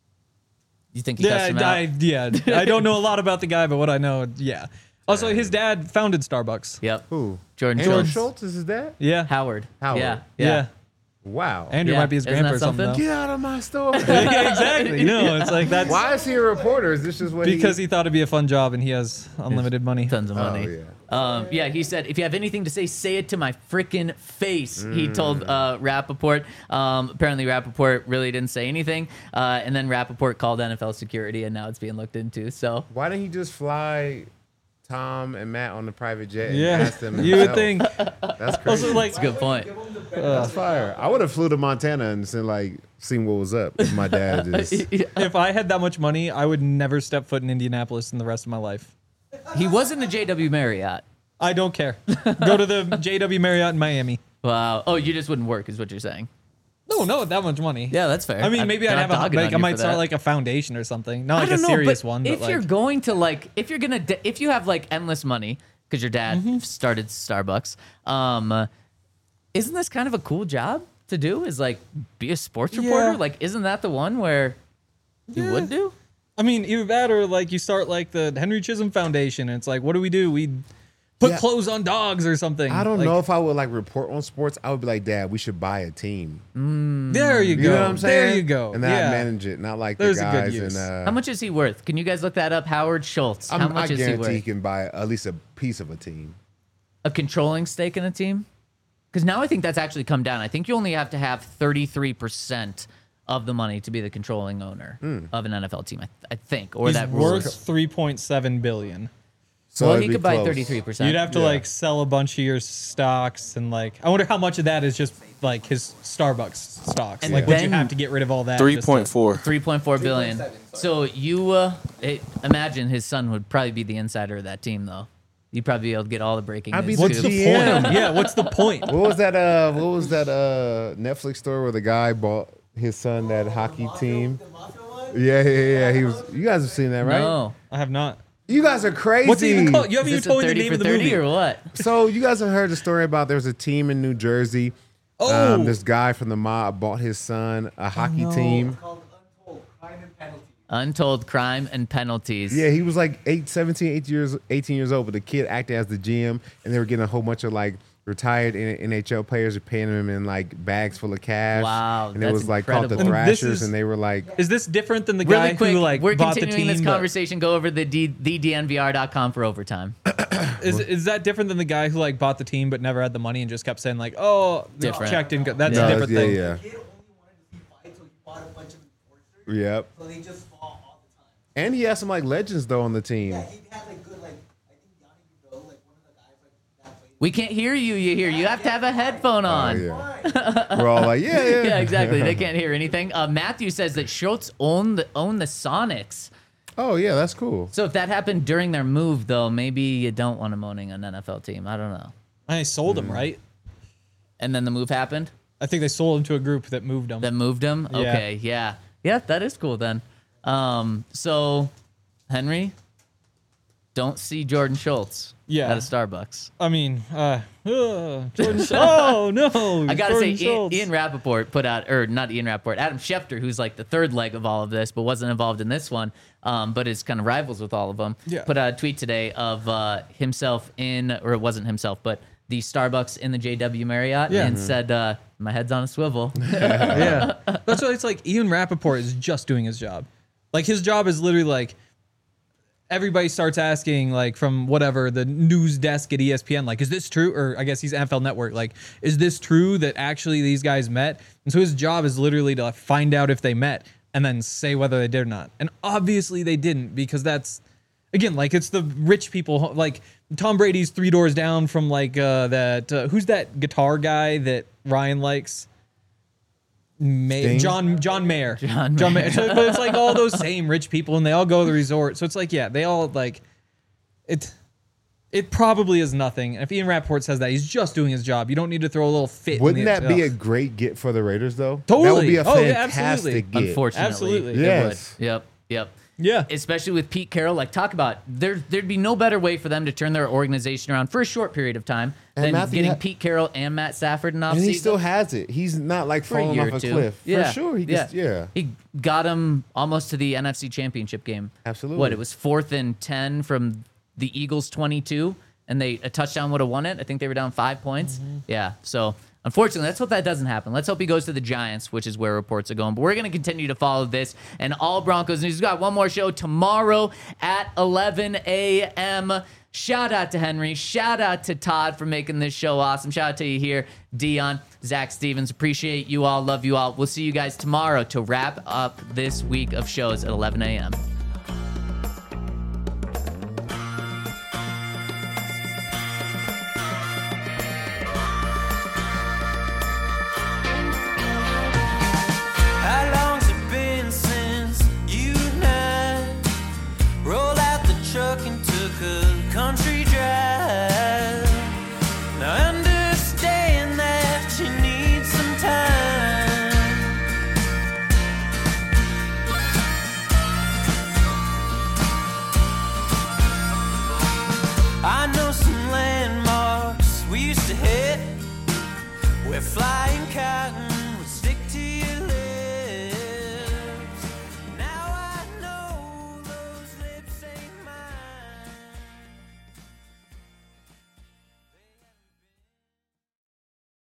Speaker 2: You think he
Speaker 4: Yeah,
Speaker 2: cussed him
Speaker 4: I,
Speaker 2: out?
Speaker 4: yeah. I don't know a lot about the guy, but what I know, yeah. Also, his dad founded Starbucks.
Speaker 2: Yep.
Speaker 3: Who?
Speaker 2: Jordan
Speaker 3: Andrew
Speaker 2: Schultz.
Speaker 3: Schultz is his dad?
Speaker 4: Yeah.
Speaker 2: Howard.
Speaker 3: Howard.
Speaker 2: Yeah.
Speaker 4: Yeah.
Speaker 2: Yeah.
Speaker 3: Wow.
Speaker 4: Andrew
Speaker 2: Yeah,
Speaker 4: might be his
Speaker 2: isn't
Speaker 4: grandpa
Speaker 2: that
Speaker 4: or something.
Speaker 2: something?
Speaker 3: Get out of my store.
Speaker 4: though. yeah, exactly. No, it's like that's
Speaker 3: Why is he a reporter? Is this just what
Speaker 4: because
Speaker 3: he...
Speaker 4: he thought it'd be a fun job and he has unlimited money.
Speaker 2: Tons of money.
Speaker 3: Oh, yeah.
Speaker 2: Um, yeah, he said, if you have anything to say, say it to my freaking face, he told uh, Rappaport. Um, apparently, Rappaport really didn't say anything. Uh, and then Rappaport called N F L security, and now it's being looked into. So,
Speaker 3: Why didn't he just fly Tom and Matt on the private jet and
Speaker 4: Yeah,
Speaker 3: ask them
Speaker 4: you would
Speaker 3: himself?
Speaker 4: think.
Speaker 3: That's crazy.
Speaker 4: Also, like,
Speaker 2: that's a good point.
Speaker 3: That's fire. I would have flew to Montana and seen, like, seen what was up. If my dad just...
Speaker 4: if I had that much money, I would never step foot in Indianapolis in the rest of my life.
Speaker 2: He was in the J W Marriott.
Speaker 4: I don't care. Go to the J W Marriott in Miami.
Speaker 2: Wow. Oh, you just wouldn't work, is what you're saying.
Speaker 4: No, no, that much money.
Speaker 2: Yeah, that's fair.
Speaker 4: I mean,
Speaker 2: I'm
Speaker 4: maybe
Speaker 2: not
Speaker 4: I'd have a
Speaker 2: dogging
Speaker 4: like,
Speaker 2: on
Speaker 4: I
Speaker 2: you
Speaker 4: might
Speaker 2: for
Speaker 4: start
Speaker 2: that.
Speaker 4: like a foundation or something, not
Speaker 2: I
Speaker 4: like a
Speaker 2: don't know,
Speaker 4: serious
Speaker 2: but
Speaker 4: one.
Speaker 2: If
Speaker 4: but
Speaker 2: you're
Speaker 4: like,
Speaker 2: going to like, if you're gonna, de- if you have like endless money because your dad
Speaker 4: Mm-hmm.
Speaker 2: started Starbucks, um, uh, isn't this kind of a cool job to do? Is like be a sports reporter?
Speaker 4: Yeah.
Speaker 2: Like, isn't that the one where you
Speaker 4: Yeah.
Speaker 2: would do?
Speaker 4: I mean, either that or like you start like the Henry Chisholm Foundation, and it's like, what do we do? We put
Speaker 3: Yeah.
Speaker 4: clothes on dogs or something.
Speaker 3: I don't
Speaker 4: Like,
Speaker 3: know if I would, like, report on sports. I would be like, Dad, we should buy a team.
Speaker 4: There you go.
Speaker 3: You know what I'm saying?
Speaker 4: There you go.
Speaker 3: And then
Speaker 4: yeah.
Speaker 3: I manage it, not like
Speaker 4: There's
Speaker 3: the
Speaker 4: a good
Speaker 3: guys
Speaker 4: use.
Speaker 3: in... Uh,
Speaker 2: How much is he worth? Can you guys look that up? Howard Schultz.
Speaker 3: I'm,
Speaker 2: How
Speaker 3: I
Speaker 2: much is he
Speaker 3: guarantee he
Speaker 2: worth?
Speaker 3: can buy at least a piece of a team.
Speaker 2: A controlling stake in a team? Because now I think that's actually come down. I think you only have to have thirty-three percent of the money to be the controlling owner of an N F L team, I, th- I think. Or
Speaker 4: He's
Speaker 2: that rule
Speaker 4: worth
Speaker 2: is-
Speaker 4: three point seven billion.
Speaker 3: So
Speaker 2: well,
Speaker 3: it'd
Speaker 2: he
Speaker 3: be
Speaker 2: could buy
Speaker 3: close.
Speaker 2: thirty-three percent.
Speaker 4: You'd have to
Speaker 3: Yeah.
Speaker 4: like sell a bunch of your stocks and like I wonder how much of that is just like his Starbucks stocks.
Speaker 2: And
Speaker 4: like would you
Speaker 2: then-
Speaker 4: have to get rid of all that?
Speaker 5: Three
Speaker 4: just to-
Speaker 5: point four.
Speaker 2: three point four billion. So you uh, it, imagine his son would probably be the insider of that team, though. You'd probably be able to get all the breaking
Speaker 3: I'd be
Speaker 2: news.
Speaker 3: the
Speaker 4: What's
Speaker 2: too.
Speaker 4: the
Speaker 3: G M.
Speaker 4: point? Yeah, what's the point?
Speaker 3: What was that? Uh, what was that? Uh, Netflix story where the guy bought his son that hockey team. Yeah, yeah, yeah. He was. You guys have seen that, right?
Speaker 2: No.
Speaker 4: I have not.
Speaker 3: You guys are crazy.
Speaker 4: What's it even called? You haven't
Speaker 2: Is
Speaker 4: even
Speaker 2: this a
Speaker 4: told me the
Speaker 2: thirty
Speaker 4: name
Speaker 2: for
Speaker 4: of the
Speaker 2: thirty
Speaker 4: movie.
Speaker 2: or what?
Speaker 3: So you guys have heard the story about there's a team in New Jersey.
Speaker 4: Oh.
Speaker 3: Um, this guy from the mob bought his son a hockey team.
Speaker 2: Untold crime and penalties.
Speaker 3: Yeah, he was like eight, seventeen, eighteen years, eighteen years old, but the kid acted as the G M, and they were getting a whole bunch of like retired N H L players are paying him in like bags full of cash.
Speaker 2: Wow,
Speaker 3: and it
Speaker 2: that's
Speaker 3: was like called the
Speaker 2: incredible.
Speaker 4: And this
Speaker 3: Thrashers,
Speaker 4: is-
Speaker 3: and they were like,
Speaker 4: Is this different than the
Speaker 2: Really
Speaker 4: guy
Speaker 2: quick,
Speaker 4: who like
Speaker 2: we're
Speaker 4: bought the
Speaker 2: continuing
Speaker 4: team?
Speaker 2: this
Speaker 4: but-
Speaker 2: conversation. Go over the D, the D N V R dot com for overtime.
Speaker 4: Is is that different than the guy who like bought the team but never had the money and just kept saying like, oh, the
Speaker 2: Different.
Speaker 4: check didn't go. That's
Speaker 3: no,
Speaker 4: a different
Speaker 3: yeah,
Speaker 4: thing.
Speaker 3: yeah,
Speaker 5: Kid only wanted to see fights, so he bought a bunch of enforcers.
Speaker 3: yep.
Speaker 5: So they just fought all the time.
Speaker 3: And he had some like legends though on the team.
Speaker 5: Yeah, he had like good, like I think Yanni Goudreau, like one of the guys like that played.
Speaker 2: We can't hear you. You hear? You have to have a headphone
Speaker 3: Oh,
Speaker 2: on.
Speaker 3: yeah. We're all like, yeah, yeah,
Speaker 2: Yeah, exactly. They can't hear anything. Uh, Matthew says that Schultz owned the, owned the Sonics.
Speaker 3: Oh yeah, that's cool.
Speaker 2: So if that happened during their move, though, maybe you don't want him owning an N F L team. I don't know.
Speaker 4: I sold
Speaker 3: Mm.
Speaker 4: him, right?
Speaker 2: And then the move happened
Speaker 4: I think they sold him to a group that moved him.
Speaker 2: that moved him.
Speaker 4: Yeah.
Speaker 2: Okay, yeah, yeah, that is cool then. Um, so Henry, don't see Jordan Schultz.
Speaker 4: Yeah.
Speaker 2: at a Starbucks.
Speaker 4: I mean, uh, uh Jordan. oh no!
Speaker 2: I gotta
Speaker 4: Jordan
Speaker 2: say, Ian,
Speaker 4: Schultz.
Speaker 2: Ian Rappaport put out, or not Ian Rappaport, Adam Schefter, who's like the third leg of all of this, but wasn't involved in this one, um, but is kind of rivals with all of them.
Speaker 4: Yeah.
Speaker 2: Put out a tweet today of uh, himself in, or it wasn't himself, but the Starbucks in the J W Marriott,
Speaker 4: Yeah.
Speaker 2: and said, uh, "My head's on a swivel."
Speaker 4: yeah, that's why it's like Ian Rappaport is just doing his job. Like his job is literally like everybody starts asking, like from whatever the news desk at E S P N, like, is this true? Or I guess he's N F L Network. Like, is this true that actually these guys met? And so his job is literally to like, find out if they met and then say whether they did or not. And obviously they didn't, because that's again like it's the rich people. Like Tom Brady's three doors down from like uh, that. Uh, who's that guitar guy that Ryan likes? May-
Speaker 3: Sting?
Speaker 4: John John Mayer.
Speaker 2: John
Speaker 4: John
Speaker 2: Mayer.
Speaker 4: Mayer. So, but it's like all those same rich people, and they all go to the resort. So it's like, yeah, they all like it. It probably is nothing. And if Ian Rappaport says that, he's just doing his job. You don't need to throw a little fit. in
Speaker 3: Wouldn't
Speaker 4: the-
Speaker 3: that be a
Speaker 4: Ugh.
Speaker 3: great get for the Raiders, though?
Speaker 4: Totally.
Speaker 3: That would be a
Speaker 4: Oh, yeah,
Speaker 3: fantastic
Speaker 4: absolutely.
Speaker 3: get.
Speaker 2: Unfortunately,
Speaker 4: Absolutely.
Speaker 2: it
Speaker 3: Yes.
Speaker 2: would. Yep, yep.
Speaker 4: Yeah.
Speaker 2: Especially with Pete Carroll, like talk about there. There'd be no better way for them to turn their organization around for a short period of time
Speaker 3: And
Speaker 2: than
Speaker 3: Matthew
Speaker 2: getting
Speaker 3: ha-
Speaker 2: Pete Carroll and Matt Stafford in
Speaker 3: And
Speaker 2: offseason.
Speaker 3: he still has it. He's not like
Speaker 2: for a
Speaker 3: falling
Speaker 2: year
Speaker 3: off
Speaker 2: or
Speaker 3: a
Speaker 2: two.
Speaker 3: cliff.
Speaker 2: Yeah.
Speaker 3: For sure. He
Speaker 2: yeah.
Speaker 3: gets, yeah.
Speaker 2: He got him almost to the N F C Championship game.
Speaker 3: Absolutely.
Speaker 2: What, it was fourth and ten from the Eagles twenty-two, and they a touchdown would have won it. I think they were down five points.
Speaker 3: Mm-hmm.
Speaker 2: Yeah. So unfortunately, let's hope that doesn't happen. Let's hope he goes to the Giants, which is where reports are going. But we're going to continue to follow this and all Broncos news. We've got one more show tomorrow at eleven a.m. Shout out to Henry. Shout out to Todd for making this show awesome. Shout out to you here, Dion, Zach Stevens. Appreciate you all. Love you all. We'll see you guys tomorrow to wrap up this week of shows at eleven a.m.
Speaker 1: How long's it been since you and I rolled out the truck and took a country drive? Now I understand that you need some time. I know some landmarks we used to hit. We're flying cotton